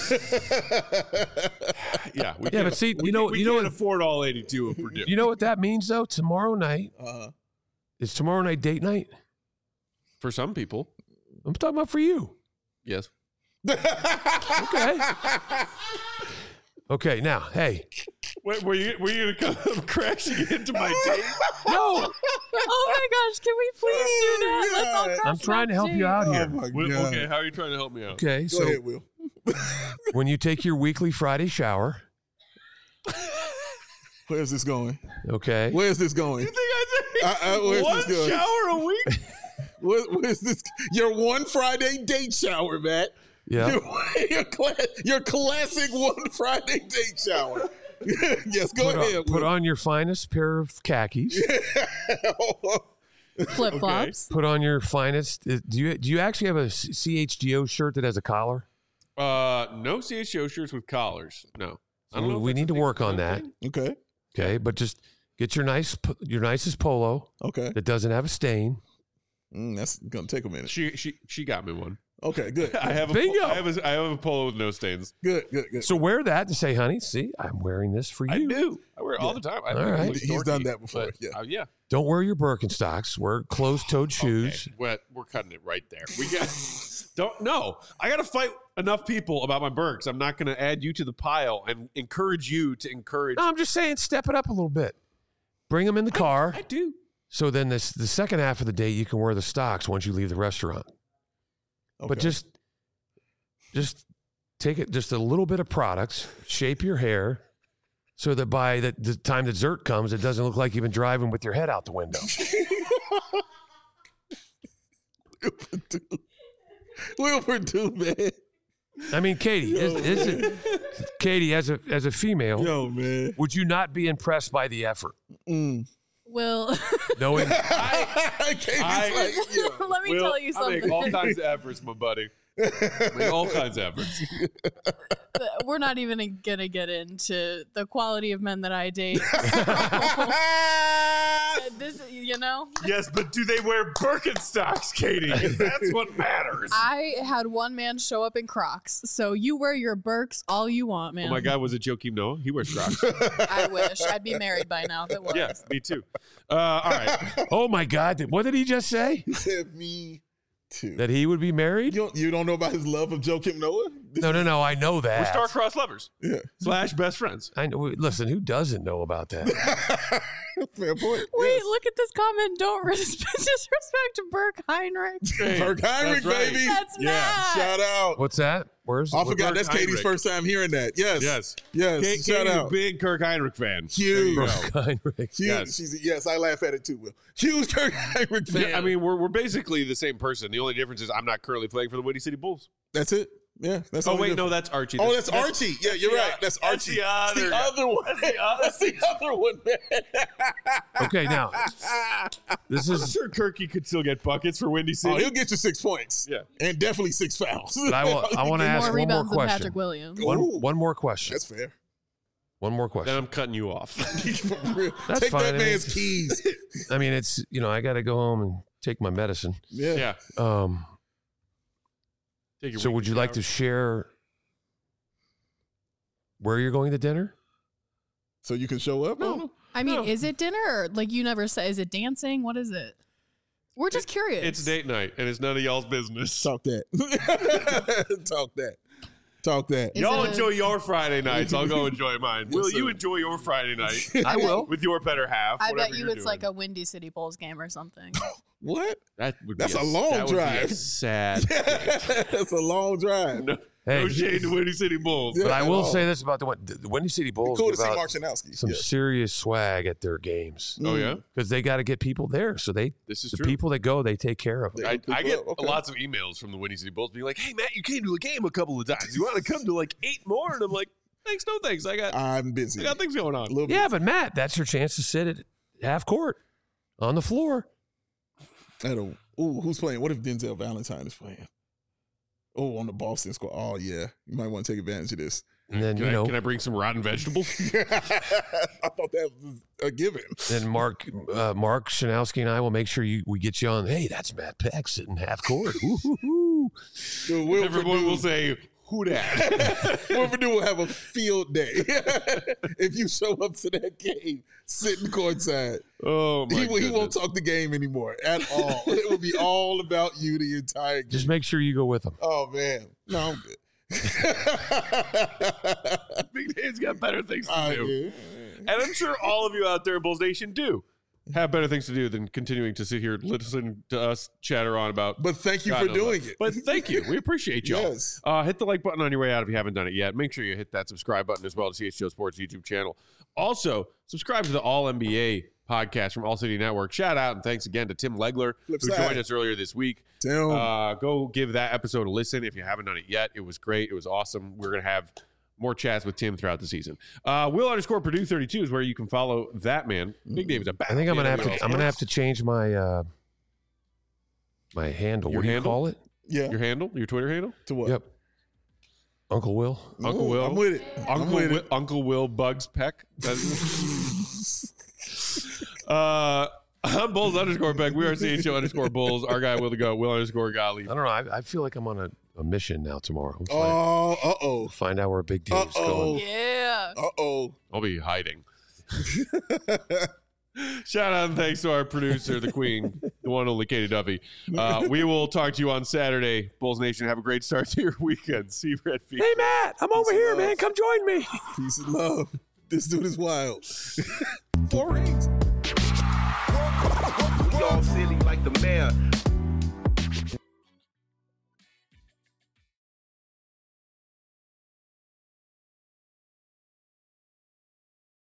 Yeah. We Yeah, can't- but see, we you know, can't- we you know, can't what, afford all eighty-two of Purdue. you know what that means though. Tomorrow night Uh, is tomorrow night date night. For some people, I'm talking about for you. yes. Okay. Okay. Now, hey, Wait, were you were you gonna come crashing into my date? no, Oh my gosh, can we please do that? Let's all God. crash I'm trying to help you my out oh here. my Well, God. okay, how are you trying to help me out? Okay, Go so ahead, Will. when you take your weekly Friday shower, Where's this going? okay, Where's this going? You think I Uh, uh, where's one this going? shower a week? Where, where's this? Your one Friday date shower, Matt. Yeah. Your, your, cla- your classic one Friday date shower. Yes, go Put ahead. on, put on your finest pair of khakis. Flip flops. Put on your finest. uh, Do you do you actually have a C H G O shirt that has a collar? Uh, no C H G O shirts with collars. No. I don't We, know if we that's need a to thing. work on Is a that. thing? Okay. Okay, but just get your nice p- your nicest polo Okay. that doesn't have a stain. Mm, that's gonna take a minute. She she she got me one. Okay, good. I have a Bingo. I have a I have a polo with no stains. Good, good, good. So wear that and say, honey, see, I'm wearing this for you. I do. I wear it all the time. I All think right. it's He's dorky, done that before, but, yeah. uh, yeah. Don't wear your Birkenstocks. Wear closed-toed shoes. Okay. We're, we're cutting it right there. We got don't no. I got to fight enough people about my Birks. I'm not going to add you to the pile and encourage you to encourage. No, I'm just saying, step it up a little bit. Bring them in the car. I do. So then this the second half of the day you can wear the stocks once you leave the restaurant. But Okay. just just take it just a little bit of products, shape your hair so that by the, the time the dessert comes, it doesn't look like you've been driving with your head out the window. Wilford, do man. I mean, Katie, is, is it, Katie, as a as a female, Yo, man. would you not be impressed by the effort? Mm. Will, Knowing Katie's I- like, yo. let me Will, tell you I make something. all kinds of efforts, my buddy. I make all kinds of efforts. We're not even gonna get into the quality of men that I date. This, you know, Yes, but do they wear Birkenstocks, Katie? 'Cause that's what matters. I had one man show up in Crocs, so you wear your Birks all you want, man. Oh my God, was it Joakim Noah? He wears Crocs. I wish I'd be married by now if it was. Yeah, me too. Uh, all right. oh my God, what did he just say? He said me too. That he would be married? You don't, you don't know about his love of Joakim Noah? This No, is- no, no. I know that. We're star-crossed lovers Yeah. slash best friends. I know. Listen, who doesn't know about that? Fair point. Wait, Yes. look at this comment. Don't res- disrespect Burke Heinrich. Hey, Kirk Heinrich, that's right. baby. That's Yeah. Matt. Shout out. What's that? Where's? I what- forgot that's Kirk Katie's Heinrich. first time hearing that. Yes. Yes. Yes. Kate, Shout Katie's a out. big Kirk Heinrich fan. Huge. There you go. Heinrich. Huge. Yes. She's, yes, I laugh at it too, Will. Huge Kirk Heinrich fan. Yeah, I mean, we're, we're basically the same person. The only difference is I'm not currently playing for the Windy City Bulls. that's it. Yeah. That's Oh, all we wait, do. no, that's Archie. Oh, that's Archie. Yeah, you're the right. o- That's that's Archie. the That's other the guy. other one. That's the other- That's the other one, man. Okay, now this I'm is. sure Kirky could still get buckets for Windy City. Oh, he'll get you six points. Yeah. And definitely six fouls. But I will. I want to ask More one more rebounds than question. Patrick Williams. One, Ooh. one more question. That's fair. One more then question. I'm cutting you off. For real. That's Take fine. that I mean, man's keys. I mean, it's you know, I got to go home and take my medicine. Yeah. yeah. Um. Take your So, would you like to share where you're going to dinner? So you can show up? No. I mean, No. is it dinner? Or, like you never say, is it dancing? What is it? We're just curious. It's date night, and it's none of y'all's business. Talk that. Talk that. Talk that. Is Y'all it a- enjoy your Friday nights. I'll go enjoy mine. Yes, Will sir. you enjoy your Friday night I will. with your better half? I whatever bet you you're it's doing. like a Windy City Bulls game or something. What? That would That's be a long that would be a drive. sad. That's a long drive. no, Hey, no shade to Windy City Bulls. Yeah. but I will Oh. say this about the, Win- the Windy City Bulls. Cool to give see out Mark Shanowski. some Yeah. serious swag at their games Oh yeah, because they got to get people there. So they, this is the true. people that go, they take care of them. They- I, People I get up, okay. lots of emails from the Windy City Bulls being like, "Hey Matt, you came to a game a couple of times. You want to come to like eight more?" And I'm like, "Thanks, no thanks. I got I'm busy. I got things going on." A little Yeah, but Matt, that's your chance to sit at half court on the floor. bit. I don't. Ooh, who's playing? What if Denzel Valentine is playing? Oh, on the Boston squad. Oh yeah, you might want to take advantage of this. And then Can, you I, know, can I bring some rotten vegetables? I thought that was a given. then Mark, uh, Mark Shanowski and I will make sure you we get you on. Hey, that's Matt Peck sitting half court. Ooh-hoo-hoo. Dude, Will Everyone Purdue- will say, "Who dat?" Will Purdue will have a field day if you show up to that game sitting courtside. Oh my He, will- he won't goodness. talk the game anymore at all. It will be all about you the entire game. Just make sure you go with them. Oh man, no, I'm good. Big Dave's got better things to I do. do. And I'm sure all of you out there in Bulls Nation do have better things to do than continuing to sit here and listen to us chatter on about. But thank you God for knows doing what. it. But thank you. We appreciate y'all. Yes. Uh, hit the like button on your way out if you haven't done it yet. Make sure you hit that subscribe button as well to C H G O Sports YouTube channel. Also, subscribe to the All N B A podcast from All City Network. Shout out and thanks again to Tim Legler, Flip who side. joined us earlier this week. Tim. Uh, go give that episode a listen if you haven't done it yet. It was great. It was awesome. We're going to have more chats with Tim throughout the season. Uh, Will underscore Purdue thirty-two is where you can follow that man. Big Dave's a bad. I think I'm gonna have to. I'm gonna have to change my uh, my handle. Your what do you handle? call it? Yeah. Your handle, your Twitter handle. To what? Yep. Uncle Will. Uncle Ooh, Will. I'm with it. Uncle I'm with Will, it. Uncle Will Bugs Peck. That's- uh, I'm Bulls underscore Peck. We are C H O underscore Bulls. Our guy Will the Go. Will underscore Gottlieb. I don't know. I, I feel like I'm on a, a mission now tomorrow. We'll find, Oh, uh oh. find out where Big Dave's Uh-oh. going. Yeah. Uh oh. I'll be hiding. Shout out and thanks to our producer, the queen, the one only Katie Duffy. Uh, we will talk to you on Saturday. Bulls Nation, have a great start to your weekend. See you, Red Feet. Hey Matt, I'm over Peace here, and man. love. Come join me. Peace and love. This dude is wild. For